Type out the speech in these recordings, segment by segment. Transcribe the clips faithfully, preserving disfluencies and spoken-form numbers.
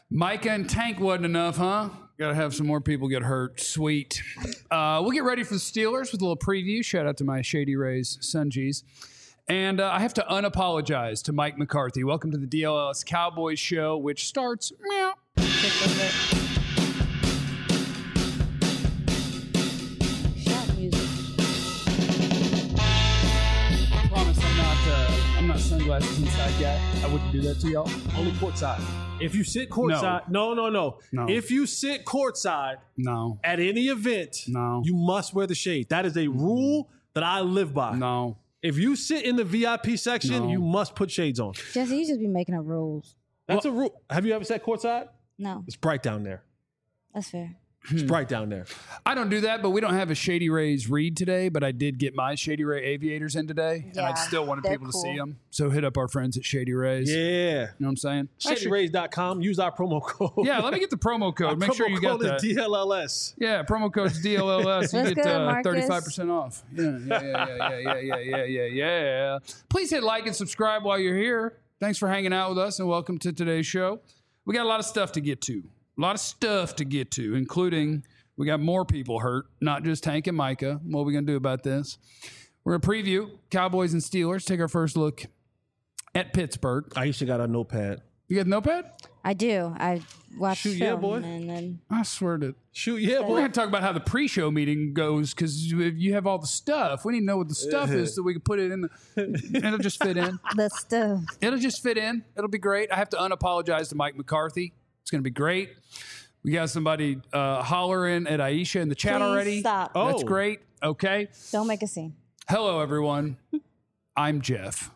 Micah and Tank wasn't enough, huh? Got to have some more people get hurt. Sweet. Uh, we'll get ready for the Steelers with a little preview. Shout out to my Shady Rays Sungees. And uh, I have to unapologize to Mike McCarthy. Welcome to the D L L S Cowboys show, which starts meow. Not sunglasses inside guy. I wouldn't do that to y'all. Only courtside. If you sit courtside, no. no, no, no, No. If you sit courtside, No. at any event, No. you must wear the shade. That is a rule that I live by. No. If you sit in the V I P section, No. you must put shades on. Jesse, you just be making up rules. That's a rule. Have you ever sat courtside? No, It's bright down there. that's fair. It's bright down there. I don't do that, but we don't have a Shady Rays read today, but I did get my Shady Ray aviators in today, and I Yeah, still wanted they're people cool. to see them. So hit up our friends at Shady Rays. Yeah. You know what I'm saying? shady rays dot com. Use our promo code. Yeah, let me get the promo code. Our Make promo sure you got code that. is D L L S. Yeah, promo code's D L L S. You Let's get go, uh, Marcus. thirty-five percent off. Yeah, yeah, yeah, yeah, yeah, yeah, yeah, yeah, yeah. Please hit like and subscribe while you're here. Thanks for hanging out with us, and welcome to today's show. We got a lot of stuff to get to. A lot of stuff to get to, including we got more people hurt, not just Tank and Micah. What are we going to do about this? We're going to preview Cowboys and Steelers. Take our first look at Pittsburgh. I used to got a notepad. You got a notepad? I do. I watch Shoot, yeah, film boy. and then I swear to. Shoot, yeah, We're boy. going to talk about how the pre-show meeting goes because you have all the stuff. We need to know what the stuff is so we can put it in. The, it'll just fit in. the stuff. It'll just fit in. It'll be great. I have to unapologize to Mike McCarthy. It's going to be great. We got somebody uh, hollering at Aisha in the chat Please already. stop. Oh. That's great. Okay. Don't make a scene. Hello, everyone. I'm Jeff.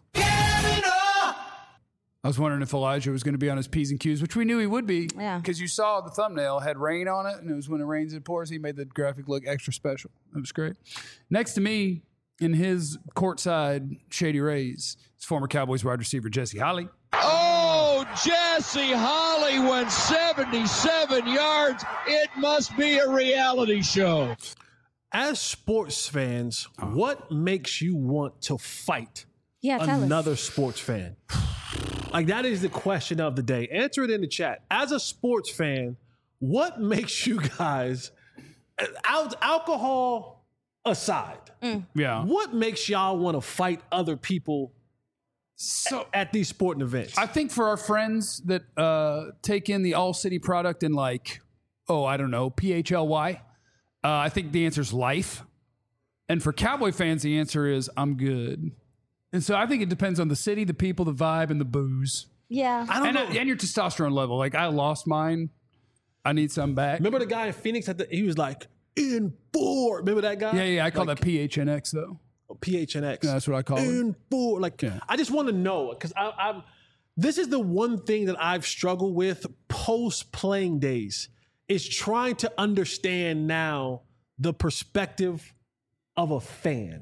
I was wondering if Elijah was going to be on his P's and Q's, which we knew he would be. Yeah. Because you saw the thumbnail had rain on it, and it was when it rains, it pours. He made the graphic look extra special. It was great. Next to me, in his courtside Shady Rays, is former Cowboys wide receiver Jesse Holley. Oh, Jesse Holley went seventy-seven yards. It must be a reality show. As sports fans, what makes you want to fight Yeah, tell another us. sports fan? Like, that is the question of the day. Answer it in the chat. As a sports fan, what makes you guys, al- alcohol aside, Yeah. what makes y'all want to fight other people So at these sporting events? I think for our friends that uh, take in the All City product in like, oh, I don't know, P H L Y, uh, I think the answer is life. And for Cowboy fans, the answer is I'm good. And so I think it depends on the city, the people, the vibe, and the booze. Yeah. I don't And, know. uh, and your testosterone level. Like, I lost mine. I need some back. Remember the guy in Phoenix? At the, he was like, in four. Remember that guy? Yeah, yeah. I call Like, that P H N X, though. P H N X. Yeah, that's what I call it. In four. Like, Yeah. I just want to know, because I'm. This is the one thing that I've struggled with post playing days, is trying to understand now the perspective of a fan.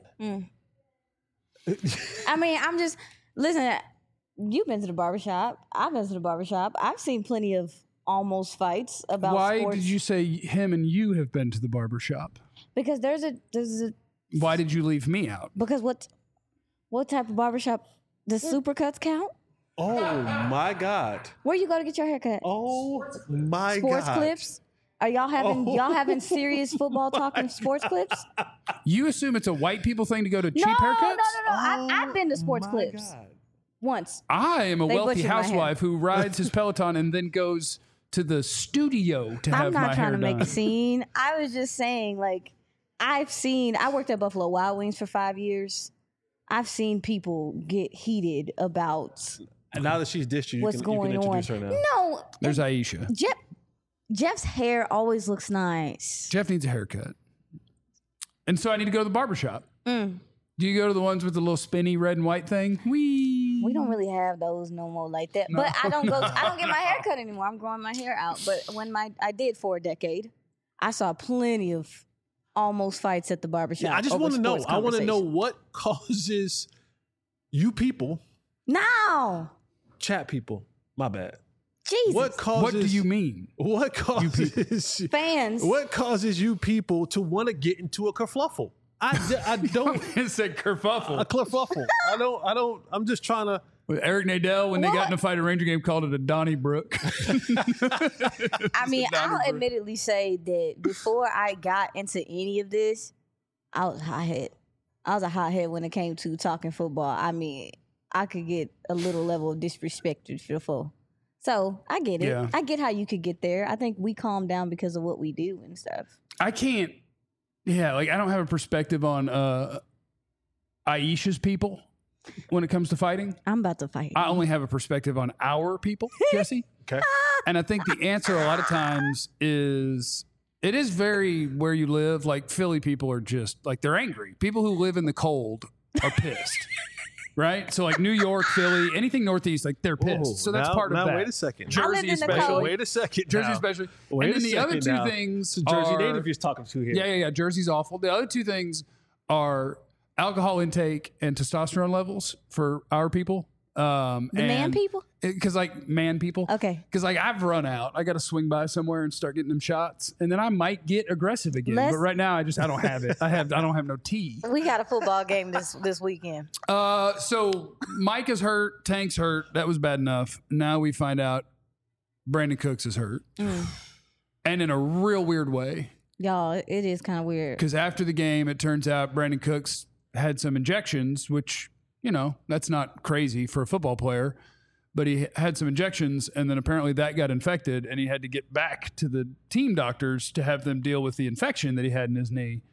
I mean, I'm just listen. You've been to the barbershop. I've been to the barbershop. I've seen plenty of almost fights about Why sports. did you say him and you have been to the barber shop? Because there's a there's a Why did you leave me out? because what what type of barbershop does supercuts count? Oh my God. Where you go to get your haircut? Oh my sports God. clips? Are y'all having Oh y'all having serious football talking sports clips? You assume it's a white people thing to go to cheap no, haircuts? no, no, no. I, I've been to sports My clips God. once. I am a They wealthy butchered my hair. housewife who rides his Peloton and then goes to the studio to have I'm my not hair trying to make done. a scene. I was just saying, like, I've seen. I worked at Buffalo Wild Wings for five years. I've seen people get heated about And now that she's dished you, you what's can, you going can on. introduce her now. No, There's Aisha. Jeff. Jeff's hair always looks nice. Jeff needs a haircut. And so I need to go to the barbershop. Mm. Do you go to the ones with the little spinny red and white thing? Wee. We don't really have those no more like that. But I don't go. I don't get my hair cut anymore. I'm growing my hair out. But when my I did for a decade, I saw plenty of almost fights at the barbershop. Yeah, I just over want to know. sports I want to know conversation. what causes you people, Now, chat people, my bad. Jesus, What causes? What do you mean? What causes? fans. What causes you people to want to get into a kerfluffle? I, d- I don't It said kerfuffle. a kerfuffle. I don't. I don't. I'm just trying to. With Eric Nadel, when they What? got in a fight at Ranger game, called it a Donnybrook. I mean, I'll Donnybrook. admittedly say that before I got into any of this, I was a hothead. I was a hothead when it came to talking football. I mean, I could get a little level of disrespected before. So I get it. Yeah. I get how you could get there. I think we calm down because of what we do and stuff. I can't. Yeah, like I don't have a perspective on uh, Aisha's people when it comes to fighting. I'm about to fight. I only have a perspective on our people, Jesse. Okay. And I think the answer a lot of times is it is very where you live. Like Philly people are just like they're angry. People who live in the cold are pissed. Right? So like New York, Philly, anything Northeast, like they're pissed. Whoa, so that's now, part of now that. Wait a second. I lived Jersey in the especially. cold. Wait a second. Jersey now. especially. Wait and a then the other second two now. things It's a Jersey are, native he's talking to here. Yeah, yeah, yeah. Jersey's awful. The other two things are alcohol intake and testosterone levels for our people. Um, The man people? Because like man people. Okay. Because like I've run out. I got to swing by somewhere and start getting them shots, and then I might get aggressive again. Let's- but right now, I just I don't have it. I have I don't have no tea. We got a football game this this weekend. Uh, so Mike is hurt. Tank's hurt. That was bad enough. Now we find out Brandon Cooks is hurt, Mm. and in a real weird way. Y'all, it is kind of weird. Because after the game, it turns out Brandon Cooks had some injections, which, you know, that's not crazy for a football player. But he had some injections, and then apparently that got infected, and he had to get back to the team doctors to have them deal with the infection that he had in his knee.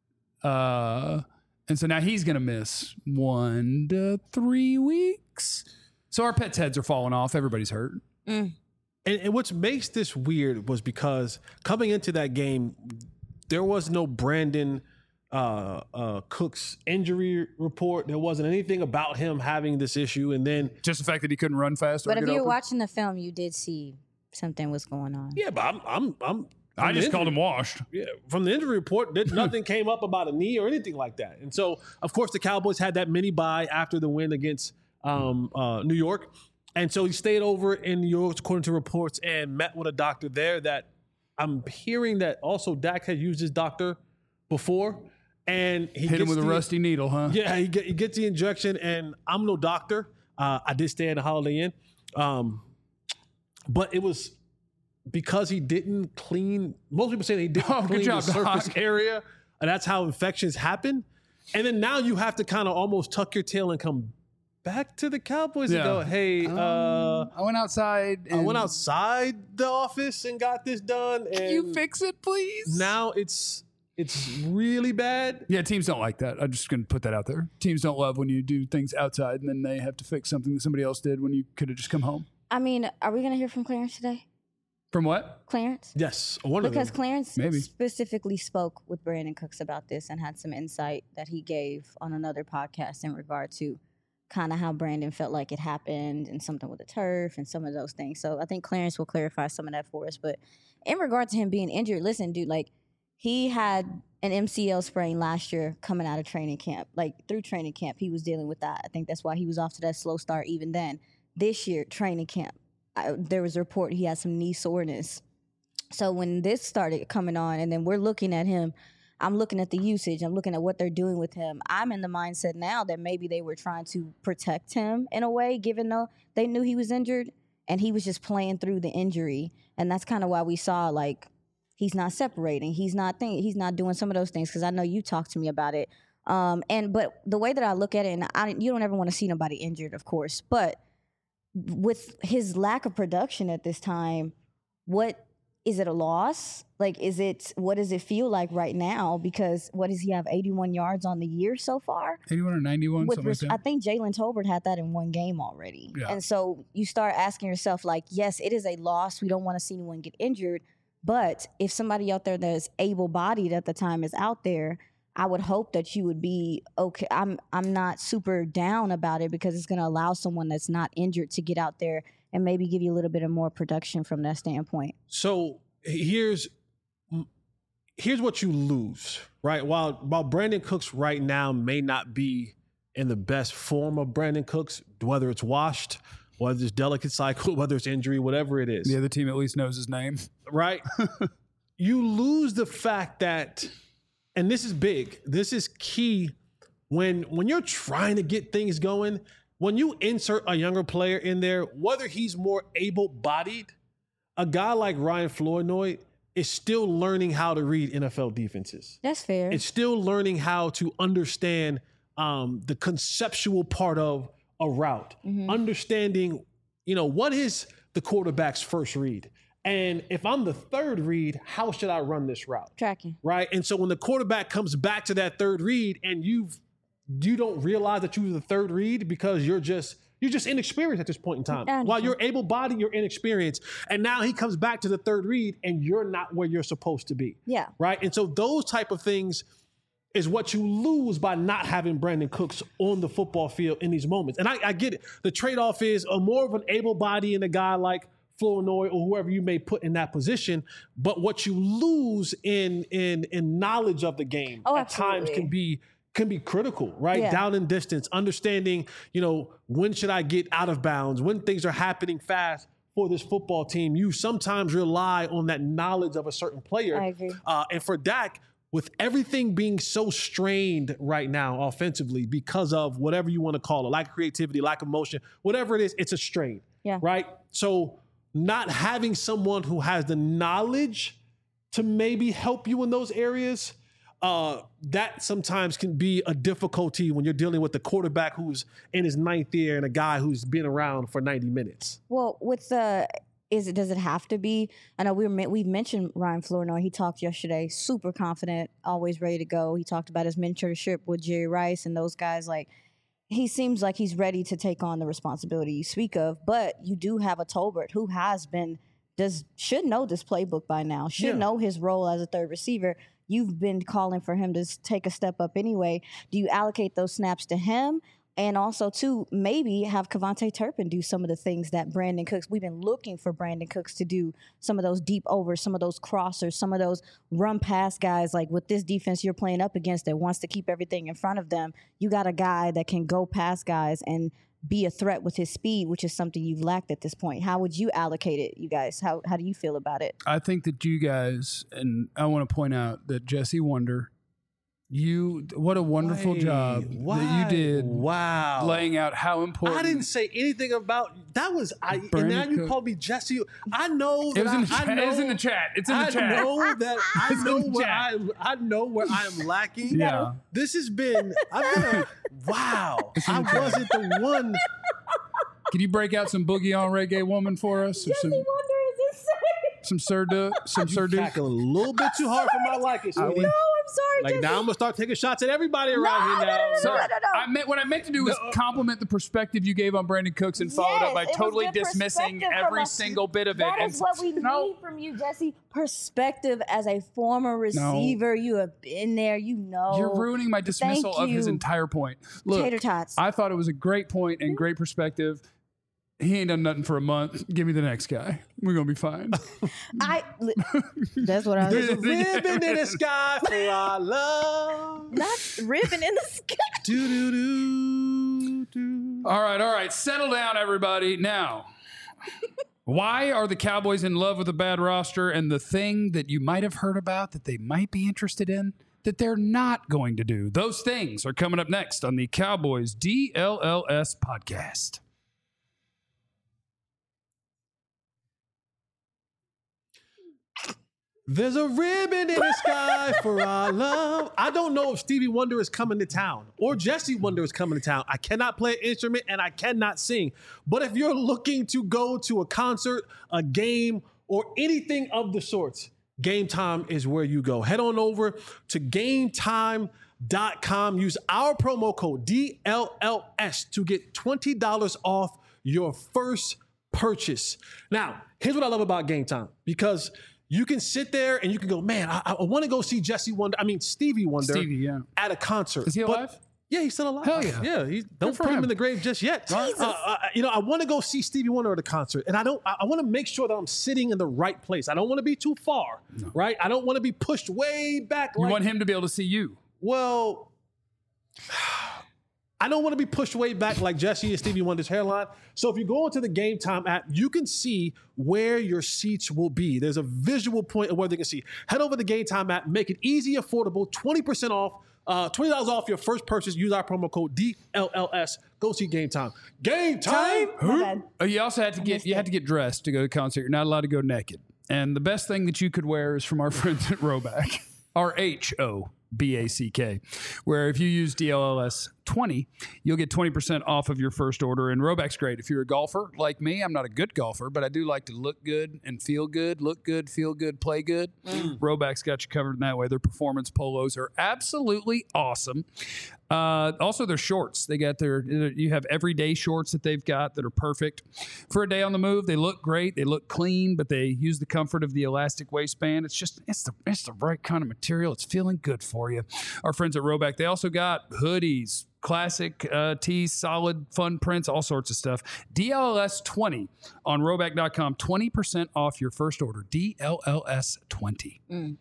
Uh, and so now he's going to miss one to three weeks. So our pets' heads are falling off. Everybody's hurt. Mm. And, and what makes this weird was because coming into that game, there was no Brandon uh, uh, Cook's injury report. There wasn't anything about him having this issue. And then, Just the fact that he couldn't run fast. Or But if get you're open. watching the film, you did see something was going on. yeah, but I'm, I'm, I'm. I from the just called injury- him washed. Yeah, from the injury report, there, nothing came up about a knee or anything like that. And so, of course, the Cowboys had that mini bye after the win against um, uh, New York. And so he stayed over in New York, according to reports, and met with a doctor there that I'm hearing that also Dak had used his doctor before. And he Hit him gets with a the- rusty needle, huh? Yeah, he, get, he gets the injection, and I'm no doctor. Uh, I did stay in the Holiday Inn. Um, but it was because he didn't clean. Most people say that he didn't Oh, good clean job, the surface Doc. area, and that's how infections happen. And then now you have to kind of almost tuck your tail and come back to the Cowboys Yeah. and go, hey, uh, I went outside. I and- went outside the office and got this done. And Can you fix it, please? now it's it's really bad. Yeah, teams don't like that. I'm just going to put that out there. Teams don't love when you do things outside and then they have to fix something that somebody else did when you could have just come home. I mean, are we going to hear from Clarence today? From what? Clarence? Yes, one Because of them. Clarence Maybe. specifically spoke with Brandon Cooks about this and had some insight that he gave on another podcast in regard to kind of how Brandon felt like it happened and something with the turf and some of those things. So I think Clarence will clarify some of that for us. But in regard to him being injured, listen, dude, like he had an M C L sprain last year coming out of training camp. Like through training camp, he was dealing with that. I think that's why he was off to that slow start even then. This year, training camp, I, there was a report he had some knee soreness. So when this started coming on, and then we're looking at him, I'm looking at the usage, I'm looking at what they're doing with him. I'm in the mindset now that maybe they were trying to protect him in a way, given though they knew he was injured, and he was just playing through the injury. And that's kind of why we saw, like, he's not separating. He's not think, He's not doing some of those things, because I know you talked to me about it. Um, and But the way that I look at it, and I, you don't ever want to see nobody injured, of course, but with his lack of production at this time, what is it a loss? Like, is it, what does it feel like right now? Because what does he have, eighty-one yards on the year so far? eighty-one or ninety-one, With, something like res- that. I think Jalen Tolbert had that in one game already. Yeah. And so you start asking yourself, like, yes, it is a loss. We don't want to see anyone get injured. But if somebody out there that's able-bodied at the time is out there, I would hope that you would be okay. I'm I'm not super down about it, because it's going to allow someone that's not injured to get out there and maybe give you a little bit of more production from that standpoint. So here's here's what you lose, right? While while Brandon Cooks right now may not be in the best form of Brandon Cooks, whether it's washed, whether it's delicate cycle, whether it's injury, whatever it is, The other team at least knows his name. right? You lose the fact that, and this is big, this is key, when when you're trying to get things going, when you insert a younger player in there, whether he's more able-bodied, a guy like Ryan Flournoy is still learning how to read N F L defenses. That's fair. It's still learning how to understand um, the conceptual part of a route, mm-hmm. understanding, you know, what is the quarterback's first read? And if I'm the third read, how should I run this route? Tracking. Right. And so when the quarterback comes back to that third read and you've, you don't realize that you were the third read because you're just, you're just inexperienced at this point in time. While you're able-bodied, you're inexperienced. And now he comes back to the third read and you're not where you're supposed to be. Yeah. Right. And so those type of things is what you lose by not having Brandin Cooks on the football field in these moments. And I, I get it. The trade-off is a more of an able body in a guy like Flournoy or whoever you may put in that position. But what you lose in in in knowledge of the game oh, at absolutely. times can be can be critical, right? Yeah. Down in distance, understanding, you know, when should I get out of bounds, when things are happening fast for this football team. You sometimes rely on that knowledge of a certain player. I agree. Uh, and for Dak, with everything being so strained right now offensively because of whatever you want to call it, lack of creativity, lack of motion, whatever it is, it's a strain, yeah. right? So not having someone who has the knowledge to maybe help you in those areas, uh, that sometimes can be a difficulty when you're dealing with a quarterback who's in his ninth year and a guy who's been around for ninety minutes. Well, with the... Is it? Does it have to be? I know we were, we've mentioned Ryan Flournoy. He talked yesterday, super confident, always ready to go. He talked about his mentorship with Jerry Rice and those guys. Like, he seems like he's ready to take on the responsibility you speak of. But you do have a Tolbert who has been, does should know this playbook by now, should yeah. know his role as a third receiver. You've been calling for him to take a step up anyway. Do you allocate those snaps to him? And also, too, maybe have Kevontae Turpin do some of the things that Brandin Cooks, we've been looking for Brandin Cooks to do, some of those deep overs, some of those crossers, some of those run pass guys. Like with this defense you're playing up against that wants to keep everything in front of them, you got a guy that can go past guys and be a threat with his speed, which is something you've lacked at this point. How would you allocate it, you guys? How how do you feel about it? I think that you guys, and I want to point out that Jesse Wonder, You, what a wonderful Wait, job why? that you did. Wow. Laying out how important. I didn't say anything about, that was, I, and Brandin now you Cook. call me Jesse. I know that It was in the I, chat. I know, It was in the chat. It's in the I chat. know that I It's in know the where chat. I'm, I know where I am lacking. Yeah. This has been, I've been a, wow. I wasn't the one. Can you break out some Boogie on Reggae Woman for us? Or some, Wonder is insane. some Sir Duke? Some Sir Duke? Tackling a little bit too hard for my liking. I sweetie. would- I'm sorry, Like Jesse. now I'm gonna start taking shots at everybody No, around here no, now. no, no, So no, no, no. I meant what I meant to do was compliment the perspective you gave on Brandin Cooks and follow it up by Yes, it was totally good dismissing perspective from every us. single bit of it. That and is what we no, need from you, Jesse. Perspective as a former receiver. You have been there. You know. You're ruining my dismissal of his you. entire point. Look, Tater tots. I thought it was a great point and great perspective. He ain't done nothing for a month. Give me the next guy. We're gonna be fine. I. li- That's what I There's a was. ribbon in the sky for our love. Not ribbon in the sky. Do do do do. All right, all right. Settle down, everybody. Now, why are the Cowboys in love with a bad roster and the thing that you might have heard about that they might be interested in that they're not going to do? Those things are coming up next on the Cowboys D L L S podcast. There's a ribbon in the sky for our love. I don't know if Stevie Wonder is coming to town or Jesse Wonder is coming to town. I cannot play an instrument and I cannot sing. But if you're looking to go to a concert, a game, or anything of the sorts, Game Time is where you go. Head on over to game time dot com. Use our promo code D L L S to get twenty dollars off your first purchase. Now, here's what I love about Game Time, because you can sit there and you can go, man, I, I want to go see Jesse Wonder. I mean, Stevie Wonder Stevie, yeah. at a concert. Is he But- alive? yeah, he's still alive. Hell yeah. Yeah, he, don't for put him. him. in the grave just yet. Uh, uh, you know, I want to go see Stevie Wonder at a concert, and I don't. I, I want to make sure that I'm sitting in the right place. I don't want to be too far, right? I don't want to be pushed way back. You like, want him to be able to see you. well, I don't want to be pushed way back like Jesse and Stevie Wonder's hairline. So if you go into the Game Time app, you can see where your seats will be. There's a visual point of where they can see. Head over to the Game Time app, make it easy, affordable, twenty percent off, uh, twenty dollars off your first purchase. Use our promo code D L L S. Go see Game Time. Game Time. My bad. Oh, you also had to get you had to get dressed to go to the concert. You're not allowed to go naked. And the best thing that you could wear is from our friends at Roback. R H O B A C K, where if you use D L L S twenty, you'll get twenty percent off of your first order. And Roback's great. If you're a golfer like me, I'm not a good golfer, but I do like to look good and feel good, look good, feel good, play good. Mm. Roback's got you covered in that way. Their performance polos are absolutely awesome. Uh, also, their shorts. They got their, you have everyday shorts that they've got that are perfect for a day on the move. They look great. They look clean, but they use the comfort of the elastic waistband. It's just, it's the, it's the right kind of material. It's feeling good for you. Our friends at Roback, they also got hoodies, classic uh, tees, solid, fun prints, all sorts of stuff. D L L S twenty on Roback dot com, twenty percent off your first order. D L L S twenty. Mm.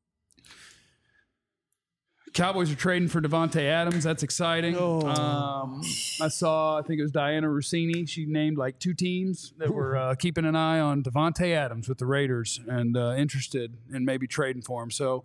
Cowboys are trading for Davante Adams. That's exciting. Oh. Um, I saw, I think it was Diana Rossini. She named like two teams that were uh, keeping an eye on Davante Adams with the Raiders and uh, interested in maybe trading for him. So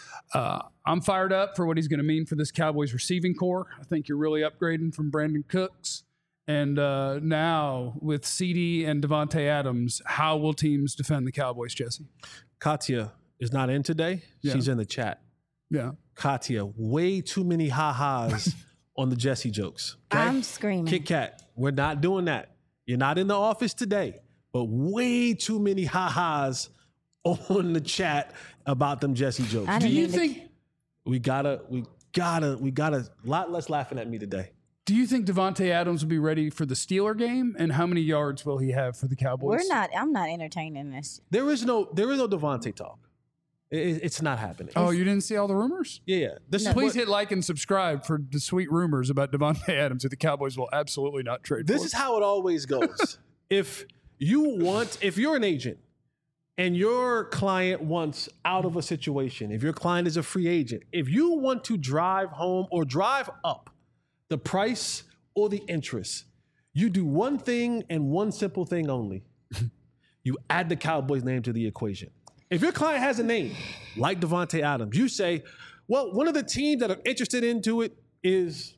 uh, I'm fired up for what he's going to mean for this Cowboys receiving core. I think you're really upgrading from Brandon Cooks. And uh, now with C D and Davante Adams, how will teams defend the Cowboys, Jesse? Katya is not in today. Yeah. She's in the chat. Yeah. Katya, way too many ha-has on the Jesse jokes. Okay? I'm screaming. Kit Kat, we're not doing that. You're not in the office today, but way too many ha-has on the chat about them Jesse jokes. Do you think we gotta, we gotta, we gotta, a lot less laughing at me today. Do you think Davante Adams will be ready for the Steeler game? And how many yards will he have for the Cowboys? We're not, I'm not entertaining this. There is no, there is no Davante talk. It, it's not happening. Oh, you didn't see all the rumors? Yeah, yeah. This no. Please what, hit like and subscribe for the sweet rumors about Davante Adams that the Cowboys will absolutely not trade This for. is how it always goes. If you want, if you're an agent and your client wants out of a situation, if your client is a free agent, if you want to drive home or drive up the price or the interest, you do one thing and one simple thing only. You add the Cowboys' name to the equation. If your client has a name like Davante Adams, you say, well, one of the teams that are interested into it is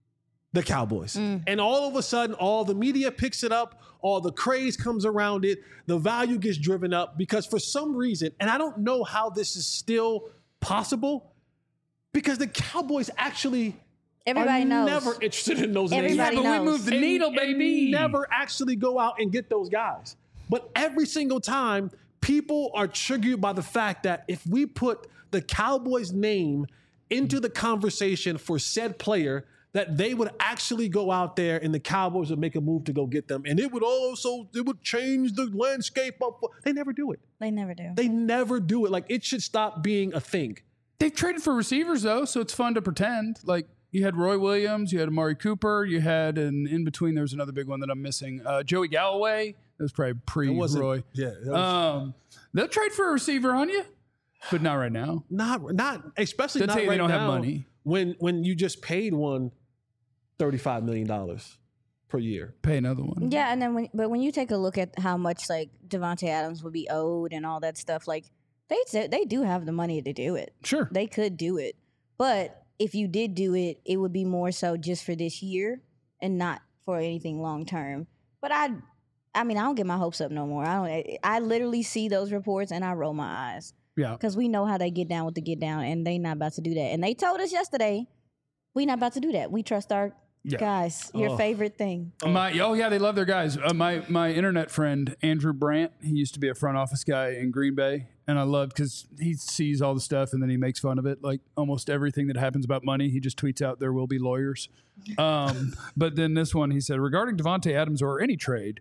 the Cowboys. Mm. And all of a sudden, all the media picks it up, all the craze comes around it, the value gets driven up because for some reason, and I don't know how this is still possible, because the Cowboys actually Everybody are knows. never interested in those Everybody names. Yeah, but knows. we move the and, needle, baby. And never actually go out and get those guys. But every single time, people are triggered by the fact that if we put the Cowboys' name into the conversation for said player, that they would actually go out there and the Cowboys would make a move to go get them. And it would also, it would change the landscape up. They never do it. They never do. They never do it. Like, it should stop being a thing. They've traded for receivers, though, so it's fun to pretend. Like, you had Roy Williams, you had Amari Cooper, you had, and in between, there was another big one that I'm missing. Uh, Joey Galloway. That was probably pre-Roy. Yeah. Was, um, they'll trade for a receiver on you, but not right now. Not, not especially they'll not tell you right they don't now have money. When, when you just paid one thirty-five million dollars per year. Pay another one. Yeah, and then when, but when you take a look at how much like Davante Adams would be owed and all that stuff, like they they do have the money to do it. Sure, they could do it, but if you did do it, it would be more so just for this year and not for anything long term. But I, I mean, I don't get my hopes up no more. I don't. I literally see those reports and I roll my eyes. Yeah, because we know how they get down with the get down, and they not about to do that. And they told us yesterday, we not about to do that. We trust our yeah. guys. Your oh. favorite thing. Oh. My oh yeah, they love their guys. Uh, my my internet friend Andrew Brandt. He used to be a front office guy in Green Bay, and I loved because he sees all the stuff and then he makes fun of it. Like almost everything that happens about money, he just tweets out there will be lawyers. Um, but then this one, he said regarding Davante Adams or any trade,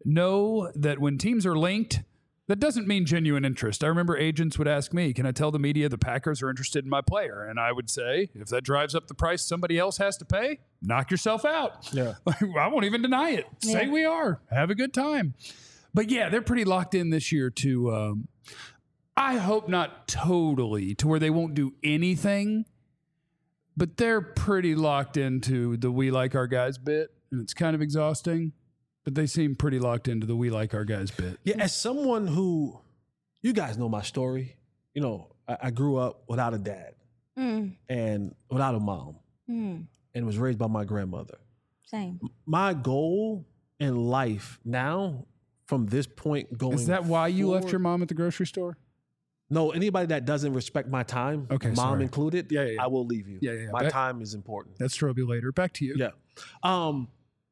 know that when teams are linked, that doesn't mean genuine interest. I remember agents would ask me, can I tell the media the Packers are interested in my player? And I would say, if that drives up the price somebody else has to pay, knock yourself out. Yeah. I won't even deny it. Yeah. Say we are. Have a good time. But yeah, they're pretty locked in this year to, um, I hope not totally to where they won't do anything. but they're pretty locked into the "we like our guys" bit, and it's kind of exhausting. But they seem pretty locked into the "we like our guys" bit. Yeah, as someone who, you guys know my story. You know, I, I grew up without a dad Mm, and without a mom, mm, and was raised by my grandmother. same. My goal in life now, from this point going, Is that why you left forward- your mom at the grocery store? No, anybody that doesn't respect my time, Okay, mom sorry. included, Yeah, yeah, yeah. I will leave you. Yeah, yeah, yeah. My Back- time is important. That's Strobe later. Back to you. Yeah. Um,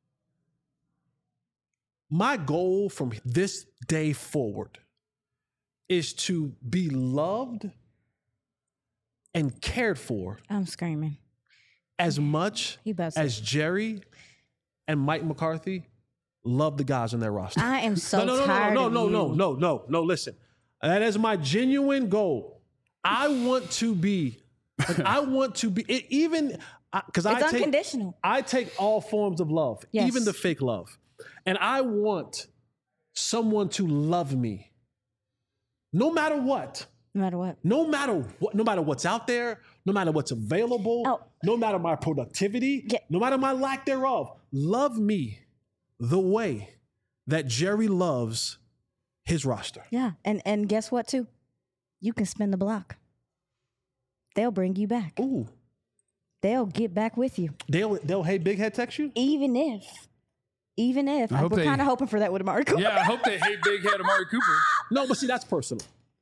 my goal from this day forward is to be loved and cared for I'm screaming. as much He about to as Jerry and Mike McCarthy love the guys on their roster. I am so no, no, no, tired no, of no, you. no, no, no, no. Listen, that is my genuine goal. I want to be, like, I want to be it, even because I It's take unconditional. I take all forms of love, Yes. even the fake love, and I want someone to love me, no matter what. No matter what. No matter what, no matter what's out there, no matter what's available, Oh. no matter my productivity, Yeah. no matter my lack thereof, love me the way that Jerry loves his roster. Yeah. And and guess what too? You can spin the block. They'll bring you back. Ooh, They'll get back with you. they'll they'll hey big head text you. Even if. Even if. I I hope we're they- kind of hoping for that with Amari Cooper. Yeah, I hope they hate big head Amari Cooper. No, but see that's personal.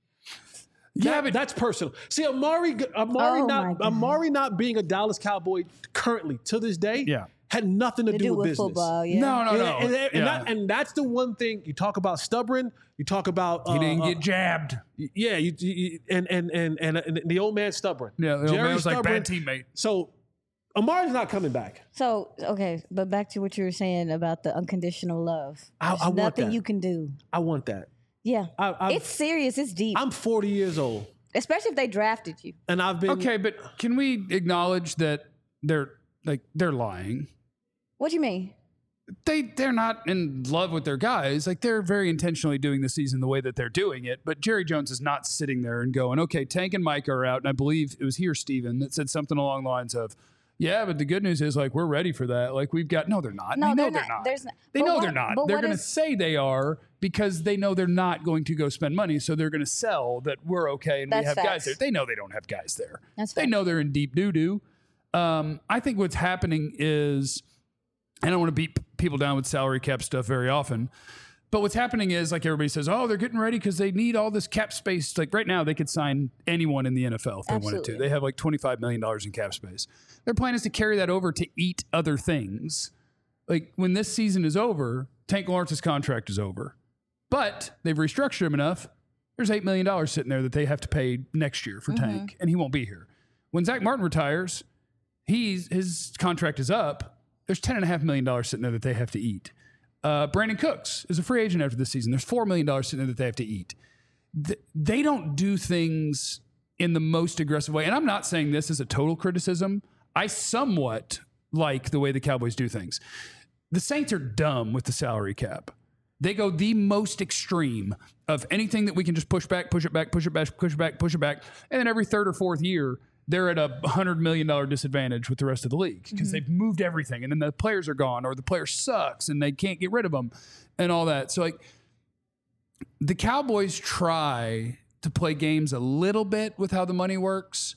Yeah, That- but that's personal. See, Amari, Amari, Oh, my not God. Amari not being a Dallas Cowboy currently to this day, Yeah. had nothing to, To do, do with with business. football, yeah. no, no, And, no. and, and, Yeah. that- and that's the one thing you talk about stubborn. You talk about he uh, didn't uh, get jabbed. yeah, you, you and, and and and and the old man stubborn. Yeah, the old man Jerry's was like stubborn. bad teammate. So Amari's not coming back. So, okay, but back to what you were saying about the unconditional love. I- There's I want nothing that. you can do. I want that. Yeah. I, I've, It's serious. It's deep. I'm forty years old, Especially if they drafted you. and I've been Okay, but can we acknowledge that they're like they're lying? What do you mean? They they're not in love with their guys. Like they're very intentionally doing the season the way that they're doing it. But Jerry Jones is not sitting there and going, okay, Tank and Mike are out. And I believe it was here, Steven, that said something along the lines of, yeah, but the good news is like we're ready for that. Like we've got no, they're not. No, they know they're they're not. not. There's not- They but know what- they're not. but They're what going to is- say they are because they know they're not going to go spend money. So they're going to sell that we're okay and we That's have guys facts. there. They know they don't have guys there. That's They facts. know they're in deep doo doo. Um, I think what's happening is, I don't want to beat p- people down with salary cap stuff very often, but what's happening is like everybody says, oh, they're getting ready because they need all this cap space. Like right now, they could sign anyone in the N F L if they wanted to. Absolutely. They have like twenty-five million dollars in cap space. Their plan is to carry that over to eat other things. Like when this season is over, Tank Lawrence's contract is over, but they've restructured him enough. There's eight million dollars sitting there that they have to pay next year for Tank, and he won't be here. When Zach Martin retires, he's his contract is up. There's ten and a half million dollars sitting there that they have to eat. Uh, Brandon Cooks is a free agent after this season. There's four million dollars sitting there that they have to eat. Th- they don't do things in the most aggressive way. And I'm not saying this is a total criticism. I somewhat like the way the Cowboys do things. The Saints are dumb with the salary cap. They go the most extreme of anything that we can just push back, push it back, push it back, push it back, push it back. And then every third or fourth year, they're at a one hundred million dollars disadvantage with the rest of the league because they've moved everything. And then the players are gone or the player sucks and they can't get rid of them and all that. So, like, the Cowboys try to play games a little bit with how the money works,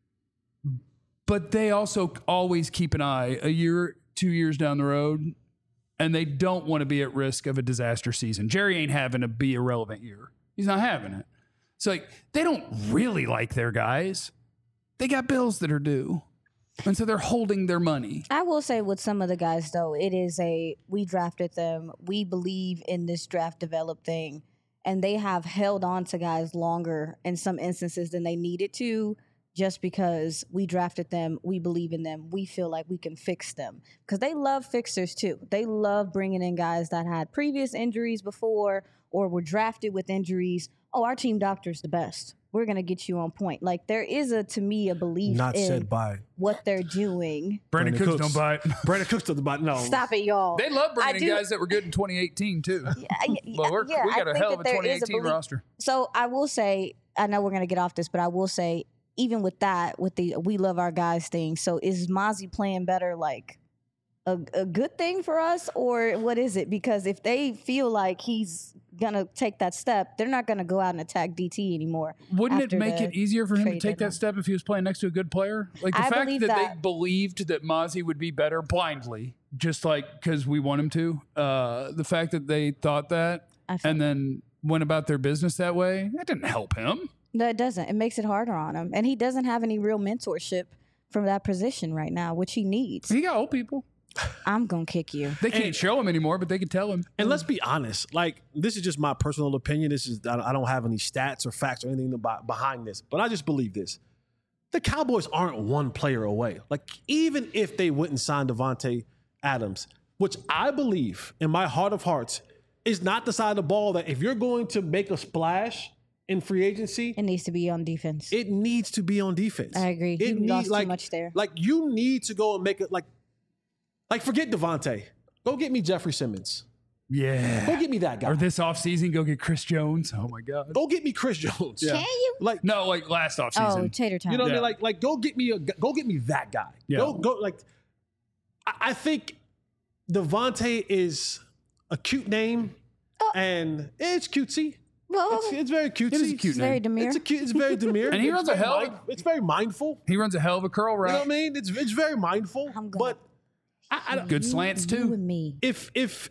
but they also always keep an eye a year, two years down the road, and they don't want to be at risk of a disaster season. Jerry ain't having a be irrelevant year. He's not having it. So, like, they don't really like their guys. They got bills that are due. And so they're holding their money. I will say with some of the guys, though, it is a, we drafted them. We believe in this draft develop thing. And they have held on to guys longer in some instances than they needed to just because we drafted them. We believe in them. We feel like we can fix them. Because they love fixers, too. They love bringing in guys that had previous injuries before or were drafted with injuries. Oh, our team doctor's the best. We're going to get you on point. Like, there is, a to me, a belief not in said by what they're doing. Brandon, Cooks, don't buy it. Brandon Cooks doesn't buy it. No, Stop it, y'all. They love I bringing in do- guys that were good in twenty eighteen, too. I- Well, we're, yeah, we I got a think hell of that a there is twenty eighteen belief- roster. So I will say, I know we're going to get off this, but I will say even with that, with the we love our guys thing, so is Mozzie playing better like a, a good thing for us, or what is it? Because if they feel like he's gonna take that step, they're not gonna go out and attack D T anymore. Wouldn't it after make the it easier for him to trade take deadline. that step if he was playing next to a good player? Like the I fact believe that, that. they believed that Mozzie would be better blindly, just like because we want him to. Uh, the fact that they thought that I feel and then went about their business that way, that didn't help him. No, it doesn't. It makes it harder on him. And he doesn't have any real mentorship from that position right now, which he needs. He got old people. I'm going to kick you. They can't And- show him anymore, but they can tell him. And let's be honest, like this is just my personal opinion. This is I I don't have any stats or facts or anything about, behind this, but I just believe this: the Cowboys aren't one player away. Like even if they wouldn't sign Devontae Adams, which I believe in my heart of hearts is not the side of the ball that if you're going to make a splash in free agency, It needs to be on defense. it needs to be on defense. I agree. It You need- lost too like, much there. Like you need to go and make it like, like forget Devontae. Go get me Jeffrey Simmons. Yeah. Go get me that guy. Or this offseason, go get Chris Jones. Oh, my God. Go get me Chris Jones. Yeah. Can you? Like No, like last Oh, offseason. tater tot. you know what I Yeah. mean? Like like go get me a go get me that guy. Yeah. Go go like. I, I think Devontae is a cute name, Oh. and it's cutesy. Whoa, It's, it's very cutesy. It is a cute it's very name. demure. It's a cute. It's very demure. And he It's runs a very hell of a- mind- It's very mindful. He runs a hell of a curl You know route. what I mean? It's it's very mindful. I'm gonna- But I, I, don't- Good You- slants, You too. and me. if if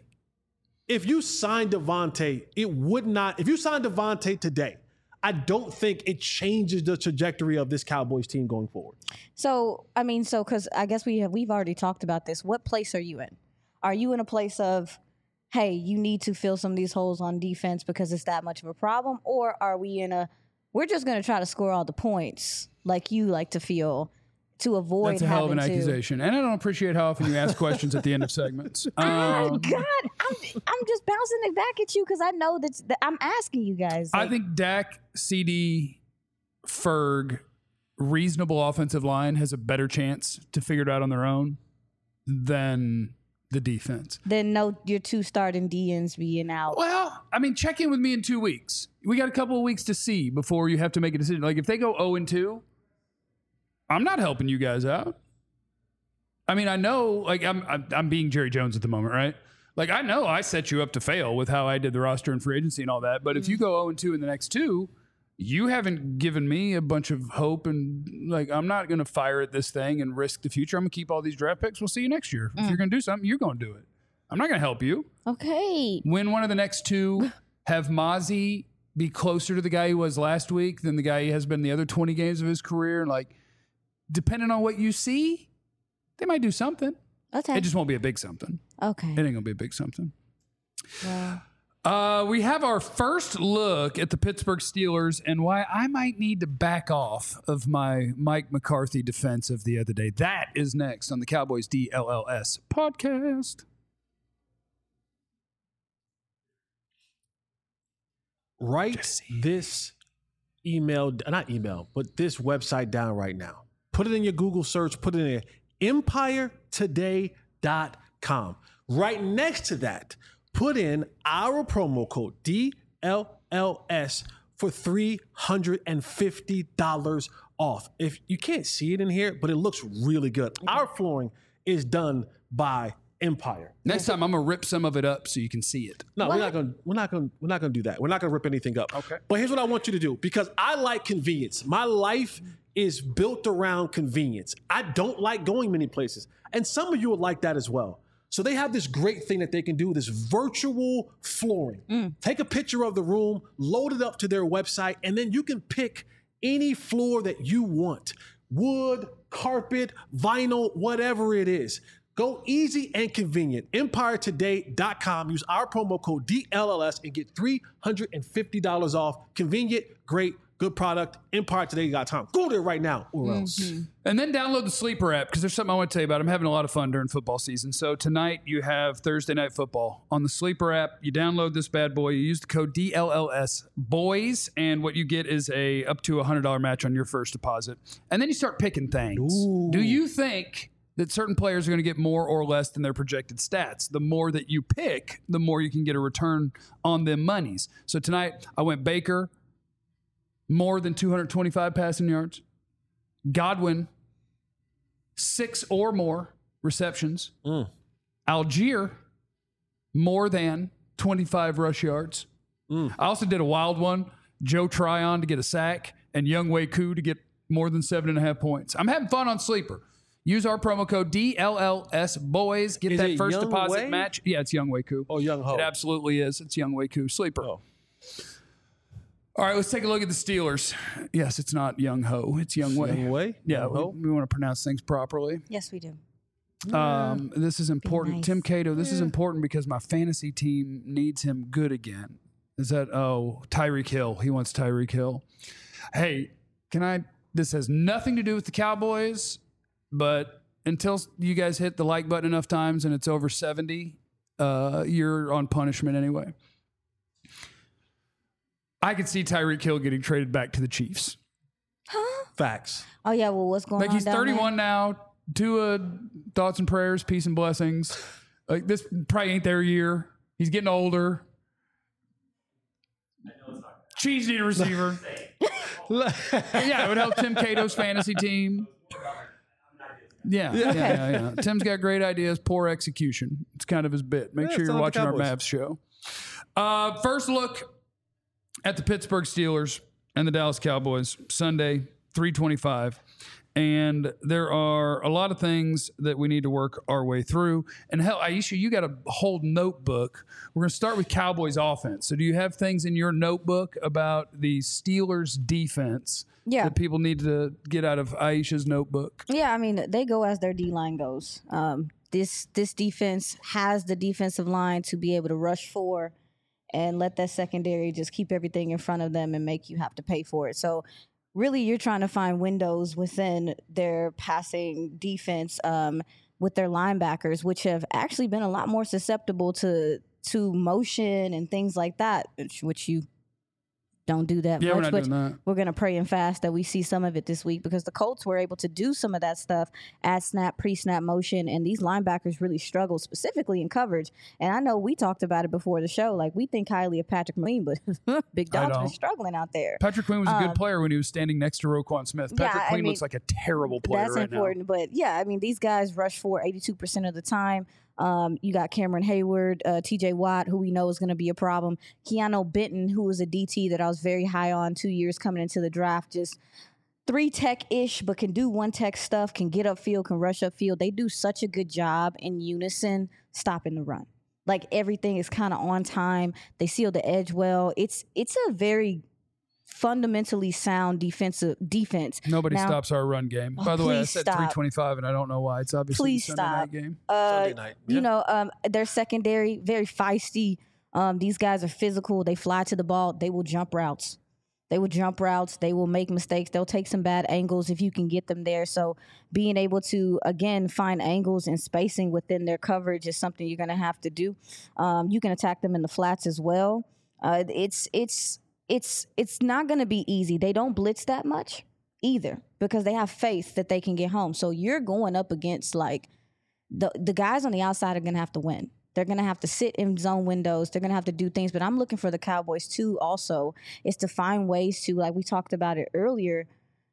if you signed Devontae, it would not. If you signed Devontae today, I don't think it changes the trajectory of this Cowboys team going forward. So, I mean, so because I guess we have, we've already talked about this. What place are you in? Are you in a place of, hey, you need to fill some of these holes on defense because it's that much of a problem? Or are we in a, we're just going to try to score all the points like you like to feel to avoid That's a hell of an having to. accusation. And I don't appreciate how often you ask questions at the end of segments. Oh, Um, God, I'm, I'm just bouncing it back at you because I know that, that I'm asking you guys. I like, think Dak, C D, Ferg, reasonable offensive line has a better chance to figure it out on their own than the defense. then no, your two starting D Ns being out. Well, I mean, check in with me in two weeks. We got a couple of weeks to see before you have to make a decision. Like if they go oh and two, I'm not helping you guys out. I mean, I know, like I'm, I'm, I'm being Jerry Jones at the moment, right? Like I know I set you up to fail with how I did the roster and free agency and all that. But if you go oh and two in the next two, you haven't given me a bunch of hope, and like I'm not going to fire at this thing and risk the future. I'm going to keep all these draft picks. We'll see you next year. If you're going to do something, you're going to do it. I'm not going to help you. Okay. Win one of the next two. Have Mozzie be closer to the guy he was last week than the guy he has been the other twenty games of his career. Like, depending on what you see, they might do something. Okay. It just won't be a big something. okay. It ain't going to be a big something. Well, Uh, we have our first look at the Pittsburgh Steelers and why I might need to back off of my Mike McCarthy defense of the other day. That is next on the Cowboys D L L S podcast. Write Jesse. this email, not email, but this website down right now. Put it in your Google search, put it in there, empire today dot com. Right next to that, put in our promo code D L L S for three hundred fifty dollars off. If you can't see it in here, but it looks really good. Our flooring is done by Empire. Next time, I'm gonna rip some of it up so you can see it. No, we're not going. We're not going. We're not going to do that. We're not going to rip anything up. Okay. But here's what I want you to do, because I like convenience. My life is built around convenience. I don't like going many places, and some of you would like that as well. So they have this great thing that they can do, this virtual flooring. Take a picture of the room, load it up to their website, and then you can pick any floor that you want. Wood, carpet, vinyl, whatever it is. Go easy and convenient. empire today dot com. Use our promo code D L L S and get three hundred fifty dollars off. Convenient, great, good product. empire today dot com. Go there right now or else. And then download the Sleeper app because there's something I want to tell you about. I'm having a lot of fun during football season. So tonight you have Thursday Night Football on the Sleeper app. You download this bad boy. You use the code D L L S boys, and what you get is a up to a one hundred dollars match on your first deposit. And then you start picking things. Ooh. Do you think that certain players are going to get more or less than their projected stats? The more that you pick, the more you can get a return on them monies. So tonight I went Baker, more than two hundred twenty-five passing yards. Godwin, six or more receptions. Mm. Algier, more than twenty-five rush yards. Mm. I also did a wild one. Joe Tryon to get a sack and Young Wei Koo to get more than seven and a half points. I'm having fun on Sleeper. Use our promo code D L L S boys. Get Is that it first Young deposit Wei? match. Yeah, it's Young Wei Koo. Oh, Young Ho. It absolutely is. It's Young Wei Koo. Sleeper. Oh. All right, let's take a look at the Steelers. Yes, it's not Young Ho. It's Young Wei. Young Wei? Yeah, Young we, Ho? we want to pronounce things properly. Yes, we do. Um, this is important. nice. Tim Cato, this is important because my fantasy team needs him good again. Is that, oh, Tyreek Hill. He wants Tyreek Hill. Hey, can I, this has nothing to do with the Cowboys, but until you guys hit the like button enough times and it's over seventy, uh, you're on punishment anyway. I could see Tyreek Hill getting traded back to the Chiefs. Facts. Oh yeah, well, what's going Like on? he's down thirty-one now. Tua, thoughts and prayers, peace and blessings. Like this probably ain't their year. He's getting older. Chiefs need a receiver. Yeah, it would help Tim Cato's fantasy team. Yeah, yeah, yeah, yeah. Tim's got great ideas, poor execution. It's kind of his bit. Make Yeah, sure it's you're not the watching our Cowboys. Mavs show. Uh, first look at the Pittsburgh Steelers and the Dallas Cowboys, Sunday, three twenty-five. And there are a lot of things that we need to work our way through. And hell, Aisha, you got a whole notebook. We're going to start with Cowboys offense. So do you have things in your notebook about the Steelers defense Yeah. that people need to get out of Aisha's notebook? Yeah, I mean, they go as their D line goes. Um, this this defense has the defensive line to be able to rush for and let that secondary just keep everything in front of them and make you have to pay for it. So really, you're trying to find windows within their passing defense um, with their linebackers, which have actually been a lot more susceptible to to motion and things like that, which, which you don't do that Yeah, much. we're not but doing that. we're going to pray and fast that we see some of it this week because the Colts were able to do some of that stuff at snap, pre-snap motion, and these linebackers really struggle specifically in coverage. And I know we talked about it before the show. Like, we think highly of Patrick Queen, but Big I Dog's been don't. struggling out there. Patrick Queen was a good Um, player when he was standing next to Roquan Smith. yeah, Patrick I Queen mean, looks like a terrible player That's right important. But yeah, I mean, these guys rush for eighty-two percent of the time. Um, you got Cameron Hayward, uh, T J Watt, who we know is going to be a problem. Keanu Benton, who was a D T that I was very high on two years coming into the draft, just three tech-ish, but can do one tech stuff, can get upfield, can rush upfield. They do such a good job in unison stopping the run. Like, everything is kind of on time. They seal the edge well. It's it's a very fundamentally sound defensive defense. now. Nobody Now- stops our run game. Oh, By the way, I please said stop. three twenty-five, and I don't know why. It's obviously Please the Sunday stop. night game. Uh, Sunday night. You Yeah. know, um, their secondary, very feisty. Um, these guys are physical. They fly to the ball. They will jump routes. They will jump routes. They will make mistakes. They'll take some bad angles if you can get them there. So being able to, again, find angles and spacing within their coverage is something you're going to have to do. Um, you can attack them in the flats as well. Uh, it's it's it's it's not going to be easy. They don't blitz that much either because they have faith that they can get home. So you're going up against like the the guys on the outside are going to have to win. They're going to have to sit in zone windows. They're going to have to do things. But I'm looking for the Cowboys too also is to find ways to, like we talked about it earlier,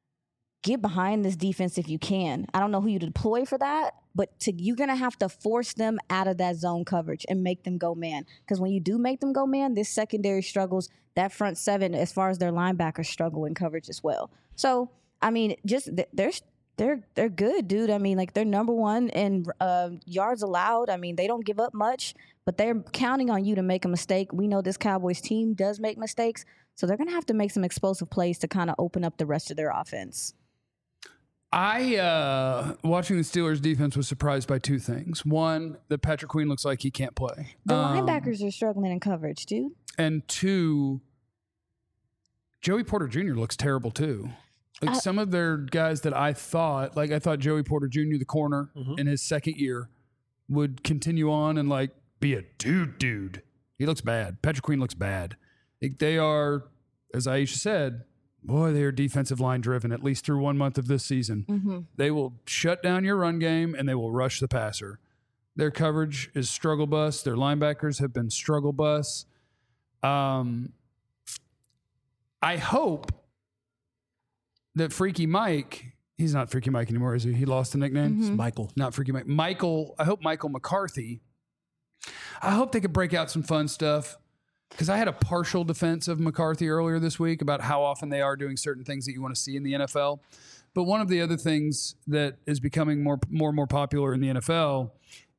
get behind this defense if you can. I don't know who you deploy for that, but to, you're going to have to force them out of that zone coverage and make them go man. Because when you do make them go man, this secondary struggles. That front seven, as far as their linebackers, struggle in coverage as well. So, I mean, just they're they're they're good, dude. I mean, like they're number one in uh, yards allowed. I mean, they don't give up much, but they're counting on you to make a mistake. We know this Cowboys team does make mistakes, so they're going to have to make some explosive plays to kind of open up the rest of their offense. I, uh, watching the Steelers defense, was surprised by two things. One, that Patrick Queen looks like he can't play. The Um, linebackers are struggling in coverage, dude. And two, Joey Porter Junior looks terrible too. Like Uh, some of their guys that I thought, like I thought Joey Porter Junior, the corner Mhm. in his second year, would continue on and like be a dude dude. He looks bad. Patrick Queen looks bad. Like, they are, as Aisha said, boy, they are defensive line driven, at least through one month of this season. Mm-hmm. They will shut down your run game and they will rush the passer. Their coverage is struggle bus. Their linebackers have been struggle bus. Um, I hope that Freaky Mike, He's not Freaky Mike anymore, is he? He lost the nickname? Mm-hmm. It's Michael. Not Freaky Mike. Michael, I hope Michael McCarthy. I hope they could break out some fun stuff. Because I had a partial defense of McCarthy earlier this week about how often they are doing certain things that you want to see in the N F L. But one of the other things that is becoming more more and more popular in the N F L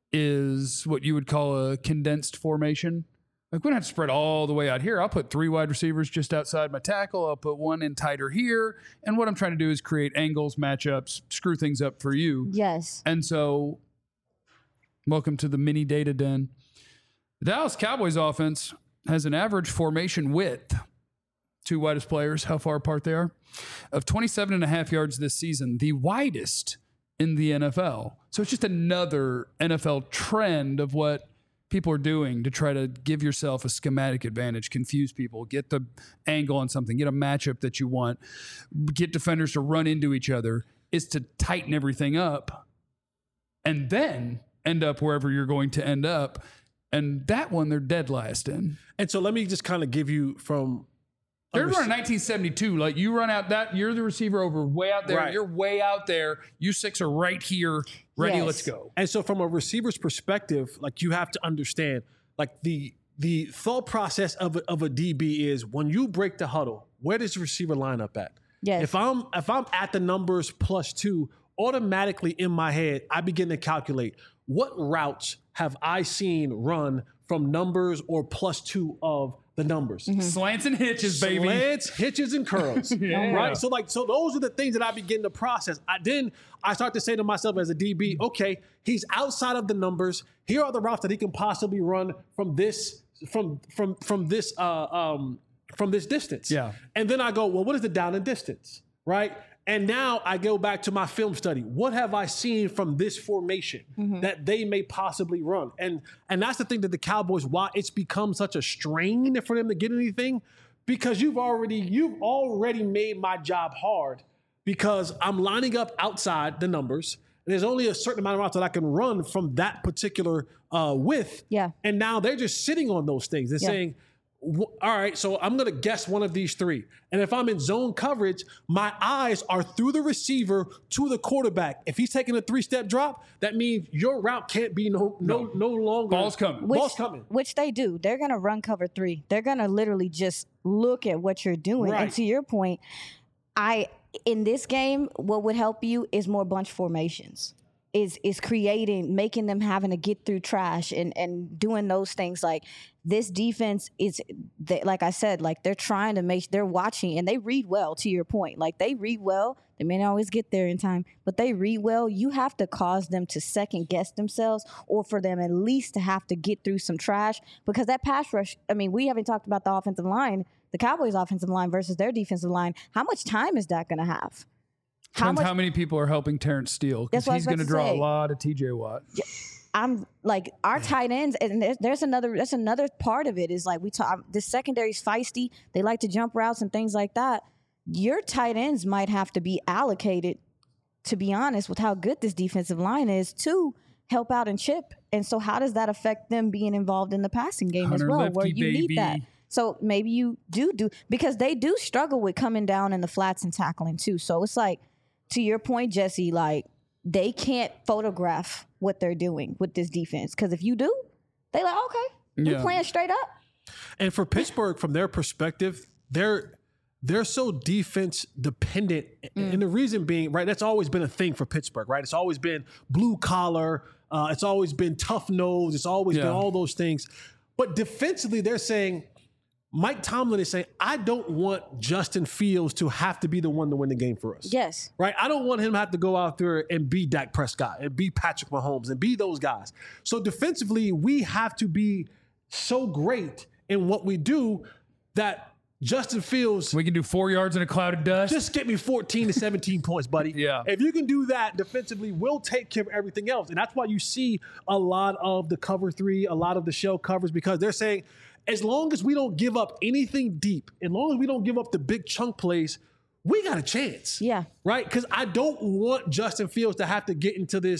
is what you would call a condensed formation. Like we don't have to spread all the way out here. I'll put three wide receivers just outside my tackle. I'll put one in tighter here. And what I'm trying to do is create angles, matchups, screw things up for you. Yes. And so, welcome to the mini data den. The Dallas Cowboys offense has an average formation width, two widest players, how far apart they are, of twenty-seven and a half yards this season, the widest in the N F L. So it's just another N F L trend of what people are doing to try to give yourself a schematic advantage, confuse people, get the angle on something, get a matchup that you want, get defenders to run into each other, is to tighten everything up and then end up wherever you're going to end up. And that one, they're dead last in. And so let me just kind of give you from... They're running nineteen seventy-two. Like you run out that, you're the receiver over way out there. Right. You're way out there. You six are right here, ready. Yes. Let's go. And so from a receiver's perspective, like you have to understand, like the the thought process of a, of a D B is when you break the huddle, where does the receiver line up at? Yes. If I'm if I'm at the numbers plus two, automatically in my head, I begin to calculate what routes have I seen run from numbers or plus two of the numbers. Mm-hmm. Slants and hitches, baby. Slants, hitches, and curls. Yeah. Right? So like, so those are the things that I begin to process. I then I start to say to myself as a D B, okay, he's outside of the numbers. Here are the routes that he can possibly run from this, from from from this uh um from this distance. Yeah. And then I go, well, what is the down and distance? Right? And now I go back to my film study. What have I seen from this formation mm-hmm. that they may possibly run? And and that's the thing that the Cowboys, why it's become such a strain for them to get anything, because you've already you've already made my job hard because I'm lining up outside the numbers. And there's only a certain amount of routes that I can run from that particular uh, width. Yeah. And now they're just sitting on those things. They're yeah. saying, all right, so I'm going to guess one of these three. And if I'm in zone coverage, my eyes are through the receiver to the quarterback. If he's taking a three-step drop, that means your route can't be no no no, no longer. Ball's coming. Which, Ball's coming. Which they do. They're going to run cover three. They're going to literally just look at what you're doing. Right. And to your point, I in this game, what would help you is more bunch formations. Is is creating, making them having to get through trash and, and doing those things. Like this defense is, they, like I said, like they're trying to make, they're watching and they read well, to your point. Like they read well. They may not always get there in time, but they read well. You have to cause them to second guess themselves or for them at least to have to get through some trash because that pass rush, I mean, we haven't talked about the offensive line, the Cowboys offensive line versus their defensive line. How much time is that going to have? How, How, much, how many people are helping Terrence Steele? Because That's what I he's was about going to to draw say. a lot of T J Watt. I'm like our tight ends, and there's, there's another that's another part of it is like we talk. The secondary's feisty. They like to jump routes and things like that. Your tight ends might have to be allocated, to be honest, with how good this defensive line is to help out and chip. And so, how does that affect them being involved in the passing game Hunter as well, Lefty, where you baby. need that? So maybe you do do because they do struggle with coming down in the flats and tackling too. So it's like. To your point, Jesse, like they can't photograph what they're doing with this defense because if you do, they like okay, we Yeah. playing straight up. And for Pittsburgh, from their perspective, they're they're so defense dependent. Mm. And the reason being, right, that's always been a thing for Pittsburgh, right? It's always been blue collar. Uh, it's always been tough nose. It's always Yeah. been all those things. But defensively, they're saying, Mike Tomlin is saying, I don't want Justin Fields to have to be the one to win the game for us. Yes. Right? I don't want him to have to go out there and be Dak Prescott and be Patrick Mahomes and be those guys. So defensively, we have to be so great in what we do that Justin Fields, We can do four yards in a cloud of dust. just get me fourteen to seventeen points, buddy. Yeah. If you can do that defensively, we'll take care of everything else. And that's why you see a lot of the cover three, a lot of the shell covers, because they're saying, as long as we don't give up anything deep, as long as we don't give up the big chunk plays, we got a chance. Yeah. Right? Because I don't want Justin Fields to have to get into this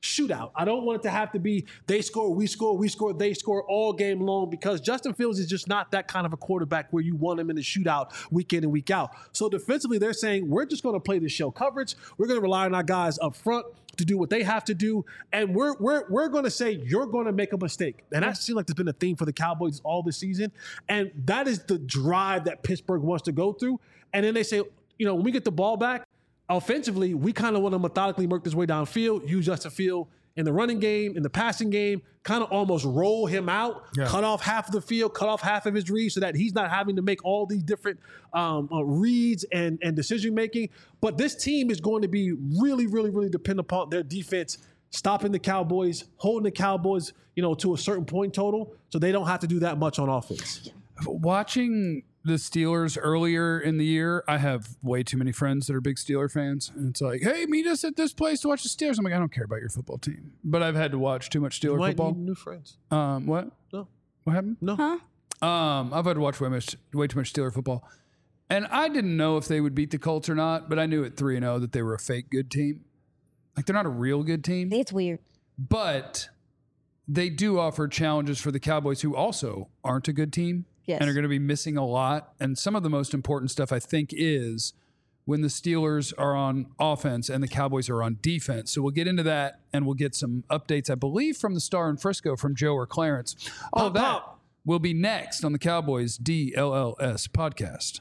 shootout. I don't want it to have to be they score, we score, we score, they score all game long, because Justin Fields is just not that kind of a quarterback where you want him in the shootout week in and week out. So defensively, they're saying we're just going to play the show coverage. We're going to rely on our guys up front to do what they have to do, and we're we're we're going to say you're going to make a mistake. And that seems like there's been a theme for the Cowboys all this season, and that is the drive that Pittsburgh wants to go through. And then they say, you know, when we get the ball back, offensively, we kind of want to methodically work this way downfield, use Justin Field in the running game, in the passing game, kind of almost roll him out, yeah. cut off half of the field, cut off half of his reads so that he's not having to make all these different um, uh, reads and, and decision-making. But this team is going to be really, really, really dependent upon their defense stopping the Cowboys, holding the Cowboys, you know, to a certain point total, so they don't have to do that much on offense. Watching the Steelers earlier in the year, I have way too many friends that are big Steeler fans. And it's like, hey, meet us at this place to watch the Steelers. I'm like, I don't care about your football team. But I've had to watch too much Steeler you might football. Need new friends. Um, what? No. What happened? No. Huh? Um, I've had to watch way, much, way too much Steeler football. And I didn't know if they would beat the Colts or not, but I knew at three and oh that they were a fake good team. Like, they're not a real good team. It's weird. But they do offer challenges for the Cowboys, who also aren't a good team. Yes. And are going to be missing a lot. And some of the most important stuff, I think, is when the Steelers are on offense and the Cowboys are on defense. So we'll get into that, and we'll get some updates, I believe, from the Star in Frisco from Joe or Clarence. All of that will be next on the Cowboys D L L S podcast.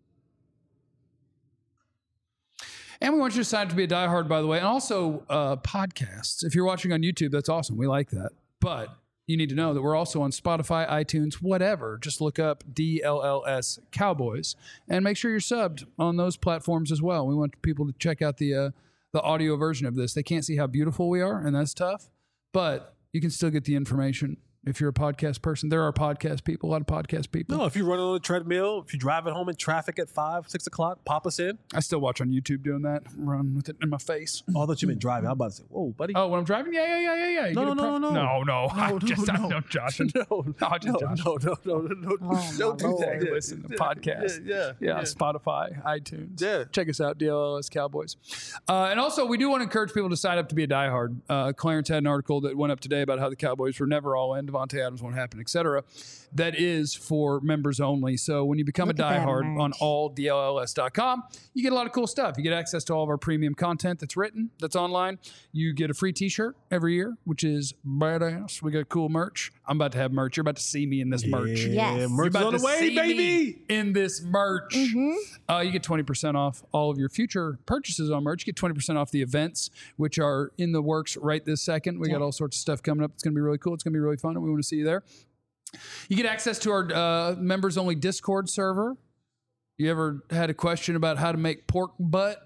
And we want you to sign up to be a diehard, by the way. And also uh, podcasts. If you're watching on YouTube, that's awesome. We like that. But you need to know that we're also on Spotify, iTunes, whatever. Just look up D L L S Cowboys and make sure you're subbed on those platforms as well. We want people to check out the uh, the audio version of this. They can't see how beautiful we are, and that's tough, but you can still get the information. If you're a podcast person, there are podcast people, a lot of podcast people. No, if you're running on a treadmill, if you're driving home in traffic at five, six o'clock, pop us in. I still watch on YouTube doing that, run with it in my face. Oh, I thought you meant driving. I'm about to say, whoa, buddy. Oh, when I'm driving? Yeah, yeah, yeah, yeah, yeah. You No, get no, a no, prep- no, no, no. I no, just, no, I'm no. not joshing. No, No, I just no, joshing. no, no, no, no, no. Oh, Don't my do that. Lord. Yeah, Listen to yeah, podcasts. Yeah, yeah, Yeah, yeah. Spotify, iTunes. Yeah. Check us out, D L L S Cowboys. Uh, and also, we do want to encourage people to sign up to be a diehard. Uh, Clarence had an article that went up today about how the Cowboys were never all in, Devontae Adams won't happen, et cetera. That is for members only. So when you become Look a at that diehard on merch. all D L L S dot com, you get a lot of cool stuff. You get access to all of our premium content that's written, that's online. You get a free t-shirt every year, which is badass. We got cool merch. I'm about to have merch. You're about to see me in this merch. Yes. You're Merch is about on the to way, see baby. me in this merch. Mm-hmm. Uh, you get twenty percent off all of your future purchases on merch. You get twenty percent off the events, which are in the works right this second. We got all sorts of stuff coming up. It's going to be really cool. It's going to be really fun, and we want to see you there. You get access to our uh, members-only Discord server. You ever had a question about how to make pork butt?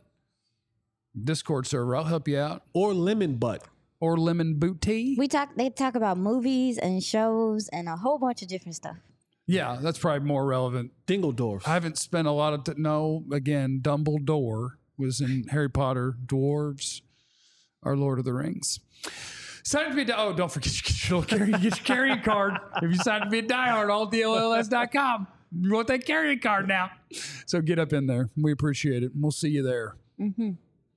Discord server. I'll help you out. Or lemon butt. Or lemon booty. We talk. They talk about movies and shows and a whole bunch of different stuff. Yeah, that's probably more relevant. Dingledorf. I haven't spent a lot of... T- no, again, Dumbledore was in Harry Potter. Dwarves are Lord of the Rings. Sign up to be a di- Oh, don't forget you get your, little carry, get your carrying card. If you sign up to be a diehard, all D L L S dot com. You want that carrying card now. So get up in there. We appreciate it. We'll see you there. Mm-hmm.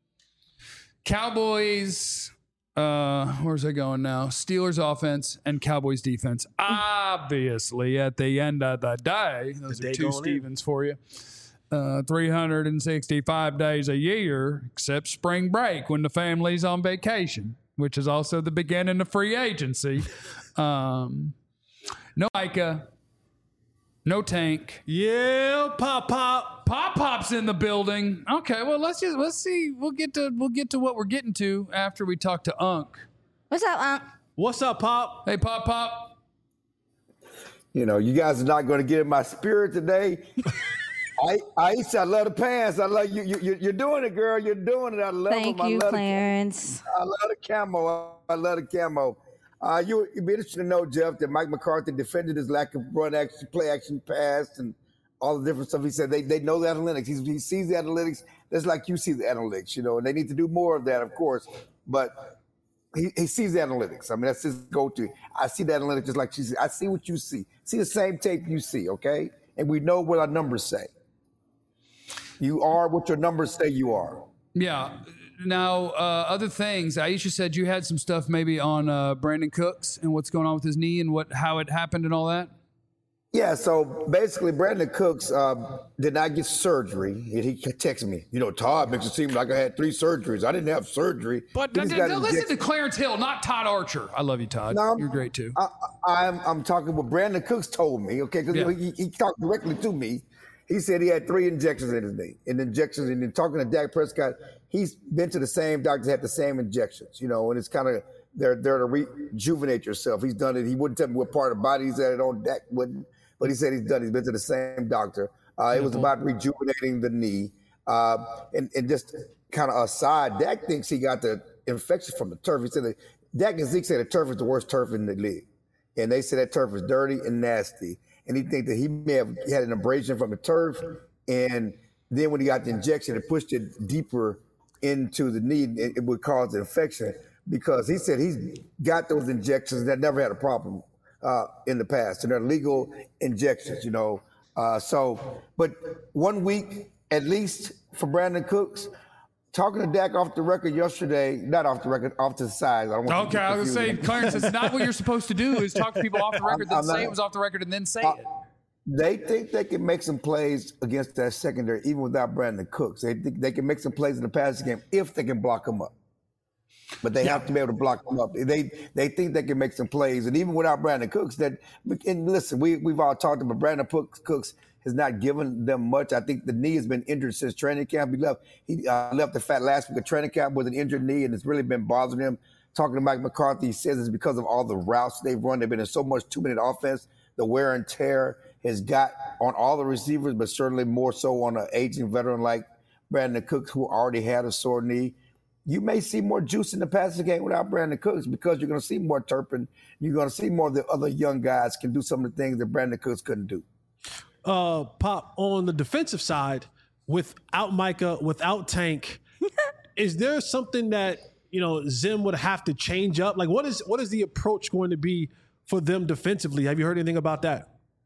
Cowboys... Uh, where's I going now? Steelers offense and Cowboys defense. Obviously, at the end of the day, those The are day two going Stevens for you. Uh, three hundred sixty-five days a year, except spring break when the family's on vacation, which is also the beginning of free agency. Um, no Micah, no Tank. Yeah, pop pop. Pop Pop's in the building. Okay, well let's just let's see. We'll get to we'll get to what we're getting to after we talk to Unc. What's up, Unc? What's up, Pop? Hey, Pop Pop. You know, you guys are not going to get in my spirit today. I, Aisha, I love the pants. I love you. you. You're doing it, girl. You're doing it. I love Thank them. I you, love Clarence. The, I love the camo. I love the camo. Uh, you, you'd be interested to know, Jeff, that Mike McCarthy defended his lack of run action, play action, pass, and all the different stuff. He said they, they know the analytics. He's, he sees the analytics just like you see the analytics, you know, and they need to do more of that, of course. But he, he sees the analytics. I mean, that's his go-to. I see the analytics just like she sees. I see what you see. See the same tape you see, okay? And we know what our numbers say. You are what your numbers say you are. Yeah. now, uh, other things. Aisha said you had some stuff maybe on uh, Brandon Cooks and what's going on with his knee and what how it happened and all that. Yeah, so basically, Brandon Cooks uh, did not get surgery. And he texted me, you know, Todd makes it seem like I had three surgeries. I didn't have surgery. But He d- just d- got d- listen injected. to Clarence Hill, not Todd Archer. I love you, Todd. No, I'm- You're great too. I, I'm I'm talking what Brandon Cooks told me, okay, because Yeah. he, he talked directly to me. He said he had three injections in his knee, and injections, and then talking to Dak Prescott, he's been to the same doctor, had the same injections, you know, and it's kind of they're they're to rejuvenate yourself. He's done it. He wouldn't tell me what part of the body he's at it on. Dak wouldn't, but he said he's done. He's been to the same doctor. Uh, it was about rejuvenating the knee, uh, and and just kind of aside, Dak thinks he got the infection from the turf. He said that Dak and Zeke said the turf is the worst turf in the league. And they said that turf is dirty and nasty. And he think that he may have had an abrasion from the turf. And then when he got the injection, it pushed it deeper into the knee. It, it would cause an infection because he said he's got those injections that never had a problem uh, in the past. And they're legal injections, you know. Uh, so, but one week at least for Brandon Cooks. Talking to Dak off the record yesterday, not off the record, off to the side. I don't want Okay, I was going to say, Clarence, it's not what you're supposed to do is talk to people off the record, then I'm say not- it was off the record, and then say Uh, it. They think they can make some plays against that secondary, even without Brandon Cooks. They think they can make some plays in the passing game if they can block them up. But they have to be able to block them up. They they think they can make some plays, and even without Brandon Cooks, that and listen, we we've all talked about Brandon Cooks. Cooks has not given them much. I think the knee has been injured since training camp. He left he uh, left the fat last week of training camp with an injured knee, and it's really been bothering him. Talking to Mike McCarthy, he says it's because of all the routes they've run. They've been in so much two-minute offense. The wear and tear has got on all the receivers, but certainly more so on an aging veteran like Brandon Cooks, who already had a sore knee. You may see more juice in the passing game without Brandon Cooks because you're going to see more Turpin. You're going to see more of the other young guys can do some of the things that Brandon Cooks couldn't do. Uh, Pop, on the defensive side, without Micah, without Tank, is there something that, you know, Zim would have to change up? Like, what is what is the approach going to be for them defensively? Have you heard anything about that?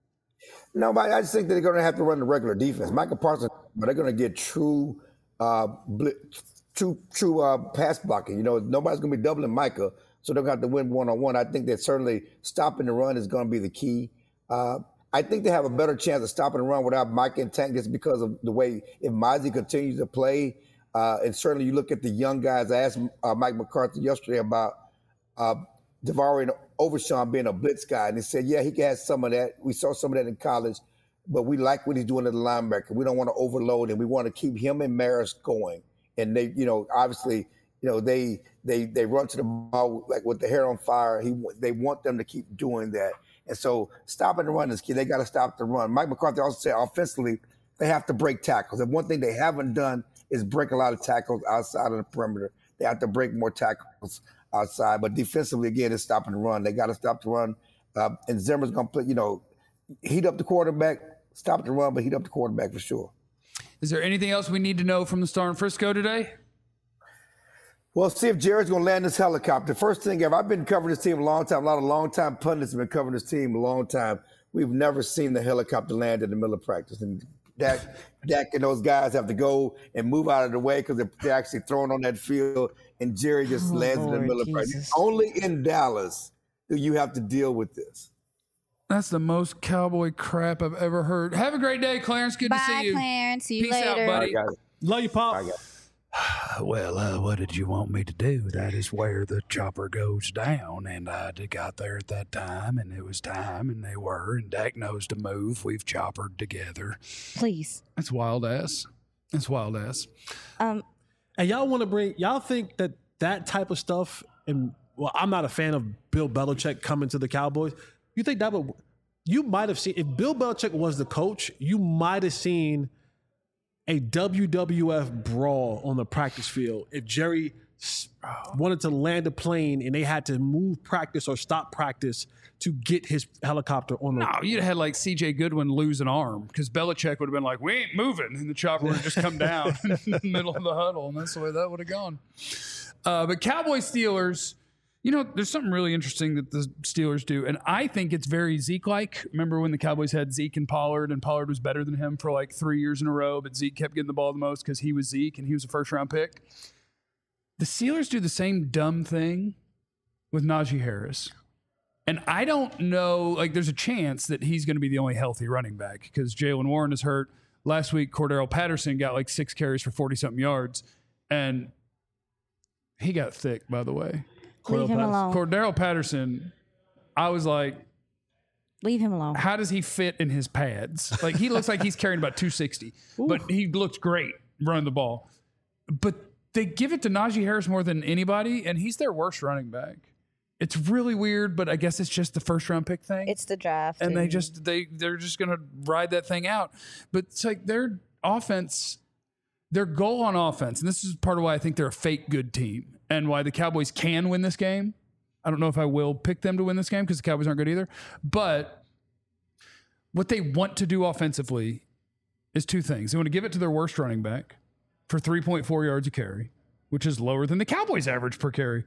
No, but I just think that they're going to have to run the regular defense. Michael Parsons, but they're going to get true, uh, blitz, true, true uh, pass blocking. You know, nobody's going to be doubling Micah, so they're going to have to win one on one. I think that certainly stopping the run is going to be the key. Uh, I think they have a better chance of stopping the run without Micah and Tank just because of the way if Mozzie continues to play. Uh, and certainly you look at the young guys. I asked uh, Mike McCarthy yesterday about uh, Davari and Overshawn being a blitz guy, and he said, yeah, he has some of that. We saw some of that in college, but we like what he's doing at the linebacker. We don't want to overload him. We want to keep him and Maris going. And they, you know, obviously, you know, they they they run to the ball like with the hair on fire. He they want them to keep doing that. And so stopping the run is key. They got to stop the run. Mike McCarthy also said offensively, they have to break tackles. And one thing they haven't done is break a lot of tackles outside of the perimeter. They have to break more tackles outside. But defensively, again, it's stopping the run. They got to stop the run. Uh, and Zimmer's going to play, you know, heat up the quarterback, stop the run, but heat up the quarterback for sure. Is there anything else we need to know from the Star in Frisco today? Well, see if Jared's going to land this helicopter. First thing ever, I've been covering this team a long time. A lot of long-time pundits have been covering this team a long time. We've never seen the helicopter land in the middle of practice. And Dak, Dak and those guys have to go and move out of the way because they're, they're actually thrown on that field. And Jerry just Oh, lands in the Lord middle of Jesus. practice. Only in Dallas do you have to deal with this. That's the most cowboy crap I've ever heard. Have a great day, Clarence. Good to Bye, see you. Clarence. See you Peace later. out, buddy. I got it. Love you, Pop. I got it. Well, uh, what did you want me to do? That is where the chopper goes down. And I got there at that time, and it was time, and they were. And Dak knows to move. We've choppered together. Please. That's wild ass. That's wild ass. Um, And y'all want to bring, y'all think that that type of stuff, and well, I'm not a fan of Bill Belichick coming to the Cowboys. You think that would, you might have seen, if Bill Belichick was the coach, you might have seen a W W F brawl on the practice field if Jerry s- wanted to land a plane and they had to move practice or stop practice to get his helicopter on the. No, you'd have had like C J Goodwin lose an arm because Belichick would have been like, we ain't moving. And the chopper would have just come down in the middle of the huddle. And that's the way that would have gone. Uh, but Cowboys Steelers, you know, there's something really interesting that the Steelers do. And I think it's very Zeke-like. Remember when the Cowboys had Zeke and Pollard, and Pollard was better than him for like three years in a row, but Zeke kept getting the ball the most because he was Zeke and he was a first-round pick? the Steelers do the same dumb thing with Najee Harris. And I don't know, like there's a chance that he's going to be the only healthy running back because Jaylen Warren is hurt. Last week, Cordero Patterson got like six carries for forty-something yards. And he got thick, by the way. Leave him alone. Cordero Patterson, I was like, Leave him alone. how does he fit in his pads? Like he looks like he's carrying about two sixty, but he looks great running the ball. But they give it to Najee Harris more than anybody, and he's their worst running back. It's really weird, but I guess it's just the first round pick thing. It's the draft. and they just they they're just gonna ride that thing out. But it's like their offense, their goal on offense, and this is part of why I think they're a fake good team and why the Cowboys can win this game. I don't know if I will pick them to win this game because the Cowboys aren't good either. But what they want to do offensively is two things. They want to give it to their worst running back for three point four yards a carry, which is lower than the Cowboys average per carry.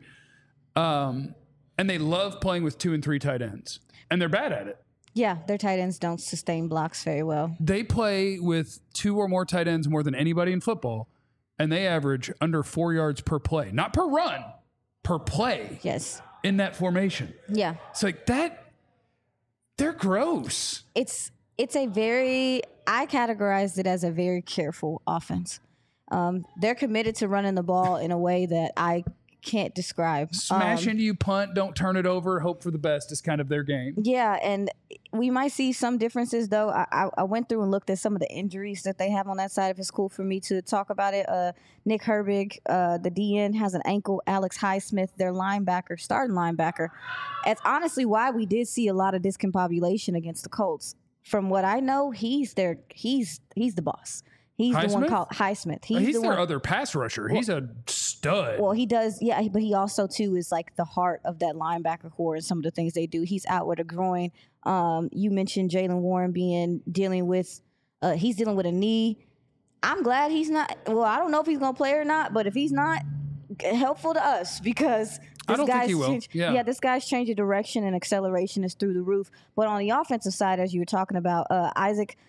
Um, and they love playing with two and three tight ends, and they're bad at it. Yeah, their tight ends don't sustain blocks very well. They play with two or more tight ends more than anybody in football, and they average under four yards per play, not per run, per play. Yes. In that formation. Yeah. It's like that, they're gross. It's it's a very, I categorized it as a very careful offense. Um, they're committed to running the ball in a way that I can't describe. Smash um, into you, punt, don't turn it over, hope for the best is kind of their game. Yeah, and we might see some differences, though. I, I, I went through and looked at some of the injuries that they have on that side, if it's cool for me to talk about it. Uh, Nick Herbig, uh, the D N, has an ankle. Alex Highsmith, their linebacker, starting linebacker. That's honestly why we did see a lot of discombobulation against the Colts. From what I know, he's their he's he's the boss. He's Highsmith? the one called Highsmith. He's, He's the their one, other pass rusher. He's a stud. Well, he does, yeah, but he also, too, is like the heart of that linebacker core and some of the things they do. He's out with a groin. Um, you mentioned Jaylen Warren being, dealing with, uh, he's dealing with a knee. I'm glad he's not, well, I don't know if he's going to play or not, but if he's not, helpful to us because I this don't think guy's he will. change, Yeah. yeah, this guy's change of direction and acceleration is through the roof. But on the offensive side, as you were talking about, uh, Isaac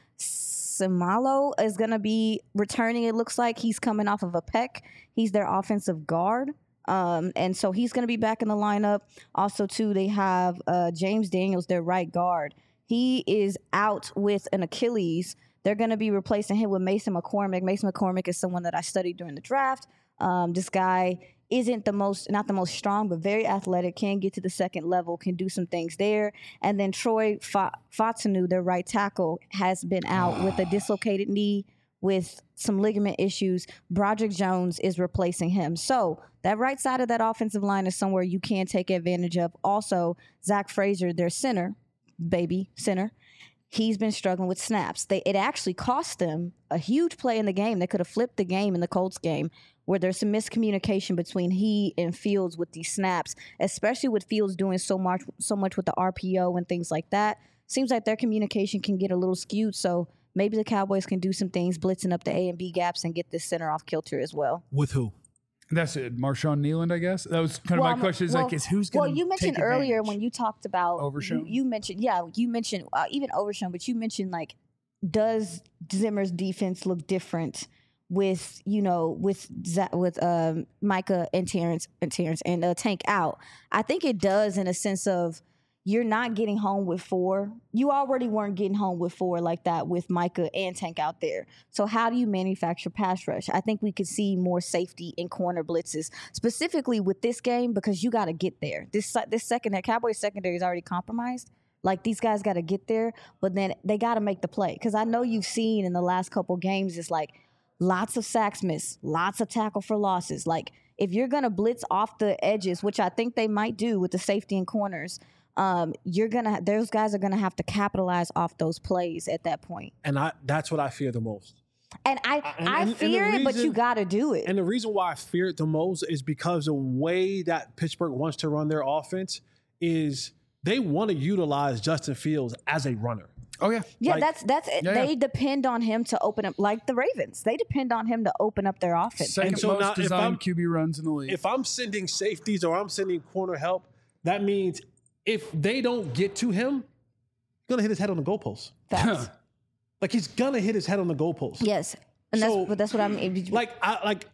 Samalo is going to be returning. It looks like he's coming off of a pec. He's their offensive guard. Um, and so he's going to be back in the lineup. Also, too, they have uh, James Daniels, their right guard. He is out with an Achilles. They're going to be replacing him with Mason McCormick. Mason McCormick is someone that I studied during the draft. Um, this guy isn't the most, not the most strong, but very athletic, can get to the second level, can do some things there. And then Troy Fautanu, their right tackle, has been out with a dislocated knee with some ligament issues. Broderick Jones is replacing him. So that right side of that offensive line is somewhere you can take advantage of. Also, Zach Frazier, their center, baby center, he's been struggling with snaps. They, it actually cost them a huge play in the game. They could have flipped the game in the Colts game, where there's some miscommunication between he and Fields with these snaps, especially with Fields doing so much so much with the R P O and things like that. Seems like their communication can get a little skewed, so maybe the Cowboys can do some things, blitzing up the A and B gaps and get this center off kilter as well. With who? That's it. Marshawn Nealand, I guess. That was kind of Well, my question. Is well, like, is who's going to Well, you mentioned earlier when you talked about Overshown? You, you mentioned, yeah, you mentioned uh, even Overshown, but you mentioned like, does Zimmer's defense look different with, you know, with Zach, with um, Micah and Terrence and Terrence and uh, Tank out? I think it does, in a sense of you're not getting home with four. You already weren't getting home with four like that with Micah and Tank out there. So how do you manufacture pass rush? I think we could see more safety in corner blitzes, specifically with this game, because you got to get there. This this second, that Cowboys secondary is already compromised. Like, these guys got to get there, but then they got to make the play. Because I know you've seen in the last couple games, it's like, lots of sacks missed, lots of tackle for losses. Like, if you're going to blitz off the edges, which I think they might do with the safety and corners, um, you're going to, those guys are going to have to capitalize off those plays at that point. And I that's what I fear the most. And I, And- I and- and the fear it, but reason- you got to do it. And the reason why I fear it the most is because the way that Pittsburgh wants to run their offense is they want to utilize Justin Fields as a runner. Oh, yeah. Yeah, Like- that's that's Yeah, they yeah. depend on him to open up, like the Ravens. They depend on him to open up their offense. Second so most now if designed I'm- Q B runs in the league. If I'm sending safeties or I'm sending corner help, that means if they don't get to him, he's gonna hit his head on the goalpost. Facts. Like, he's gonna hit his head on the goalpost. Yes, and So, that's but that's what I mean. Like I like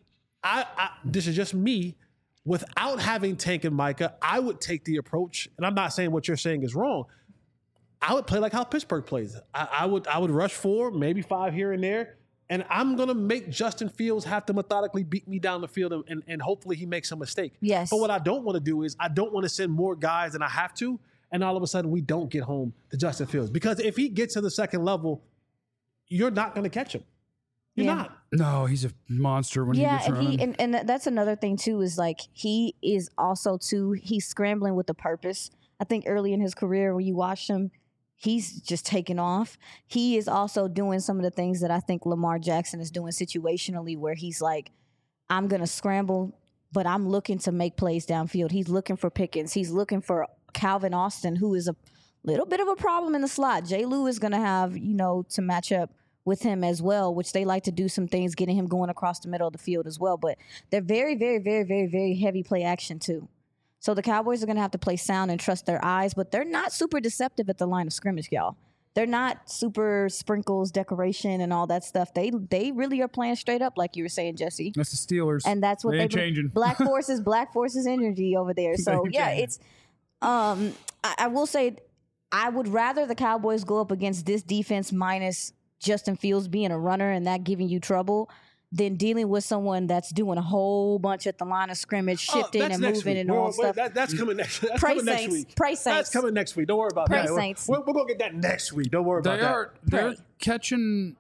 I, I this is just me. Without having Tank and Micah, I would take the approach, and I'm not saying what you're saying is wrong. I would play like how Pittsburgh plays. I, I would I would rush four, maybe five here and there, and I'm gonna make Justin Fields have to methodically beat me down the field, and, and, and hopefully he makes a mistake. Yes. But what I don't want to do is I don't want to send more guys than I have to, and all of a sudden we don't get home to Justin Fields, because if he gets to the second level, you're not gonna catch him. You're Yeah. not. No, he's a monster when Yeah, he gets and running. he and, and that's another thing too, is like he is also too he's scrambling with a purpose. I think early in his career when you watched him, he's just taking off. He is also doing some of the things that I think Lamar Jackson is doing situationally, where he's like, I'm gonna scramble, but I'm looking to make plays downfield. He's looking for Pickens. He's looking for Calvin Austin, who is a little bit of a problem in the slot. Jay Lou is gonna have, you know, to match up with him as well, which they like to do some things, getting him going across the middle of the field as well. But they're very, very, very, very, very heavy play action too. So the Cowboys are going to have to play sound and trust their eyes, but they're not super deceptive at the line of scrimmage, y'all. They're not super sprinkles, decoration, and all that stuff. They they really are playing straight up, like you were saying, Jesse. That's the Steelers. And that's what They they ain't changing. Black forces, black forces energy over there. So ain't yeah, changing. it's. Um, I, I will say, I would rather the Cowboys go up against this defense minus Justin Fields being a runner and that giving you trouble than dealing with someone that's doing a whole bunch at the line of scrimmage, Oh, shifting that's and next moving week. and We're- all we're- stuff. that- that's coming next. That's Pray coming next Saints. week. Pray That's Saints. coming next week. Don't worry about Pray that. We're- Saints. We're, we're gonna get that next week. Don't worry about They that. are they're Pray. catching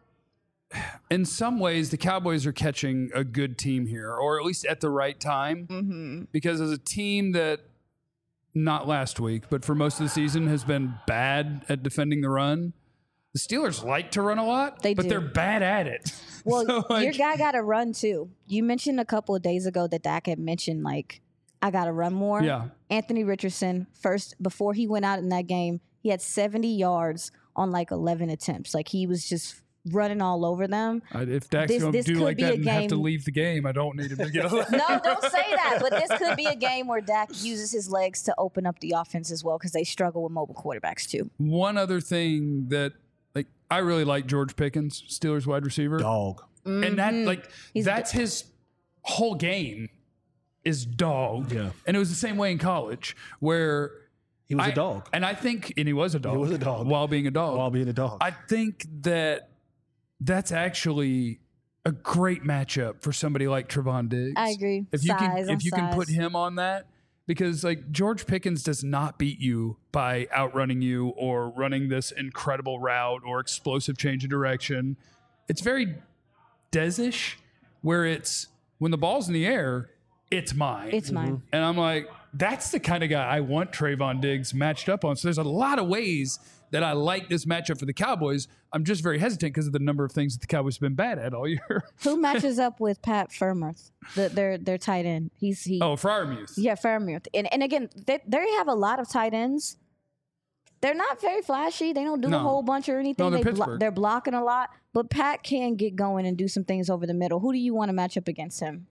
in some ways the Cowboys are catching a good team here, or at least at the right time. Mm-hmm. Because as a team that not last week, but for most of the season has been bad at defending the run. The Steelers like to run a lot, They but do. they're bad at it. Well, So, like, your guy got to run too. You mentioned a couple of days ago that Dak had mentioned, like, I got to run more. Yeah. Anthony Richardson, first, before he went out in that game, he had seventy yards on like eleven attempts. Like, he was just running all over them. I- if Dak's This- going to this do could like be that a and have to game- leave the game, I don't need him to get a No, don't say that. But this could be a game where Dak uses his legs to open up the offense as well, because they struggle with mobile quarterbacks too. One other thing that, like, I really like George Pickens, Steelers wide receiver. Dog. And that, like, He's that's his whole game is dog. Yeah. And it was the same way in college where He was I- a dog And I think, and he was a dog. He was a dog. While being a dog. while being a dog. I think that that's actually a great matchup for somebody like Trevon Diggs. I agree. If you Size can, on if you can put size. him on that, because like George Pickens does not beat you by outrunning you or running this incredible route or explosive change of direction. It's very Desish, where it's when the ball's in the air, it's mine. It's mine. And I'm like, that's the kind of guy I want Trevon Diggs matched up on. So there's a lot of ways that I like this matchup for the Cowboys. I'm just very hesitant because of the number of things that the Cowboys have been bad at all year. Who matches up with Pat Freiermuth, the, their their tight end? He's he. Oh, Freiermuth. Yeah, Freiermuth. And and again, they they have a lot of tight ends. They're not very flashy. They don't do No. a whole bunch or anything. No, they're they Pittsburgh. they're blocking a lot, but Pat can get going and do some things over the middle. Who do you want to match up against him?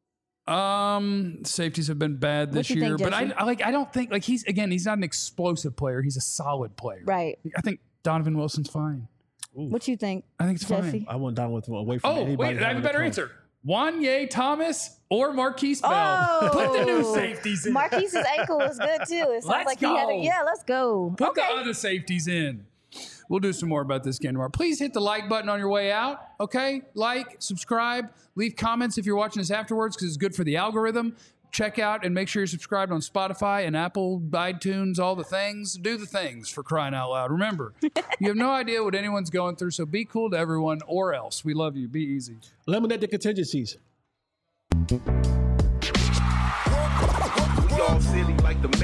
Um, safeties have been bad this you year, think, but I, Jesse? I like. I don't think like he's again. He's not an explosive player. He's a solid player. Right. I think Donovan Wilson's fine. What you think? I think it's Jesse? fine. I want Donald away from Oh anybody. wait, I have a having better come. answer. Wanye Thomas or Marquise Bell. Oh, Put the new safeties in. Marquise's ankle is good too. It sounds Let's like he had a, go. yeah, let's go. Put okay. the other safeties in. We'll do some more about this game tomorrow. Please hit the like button on your way out. Okay, like, subscribe, leave comments if you're watching this afterwards because it's good for the algorithm. Check out and make sure you're subscribed on Spotify and Apple, iTunes, all the things. Do the things, for crying out loud. Remember, you have no idea what anyone's going through, so be cool to everyone or else. We love you. Be easy. Eliminate the contingencies. We all silly like the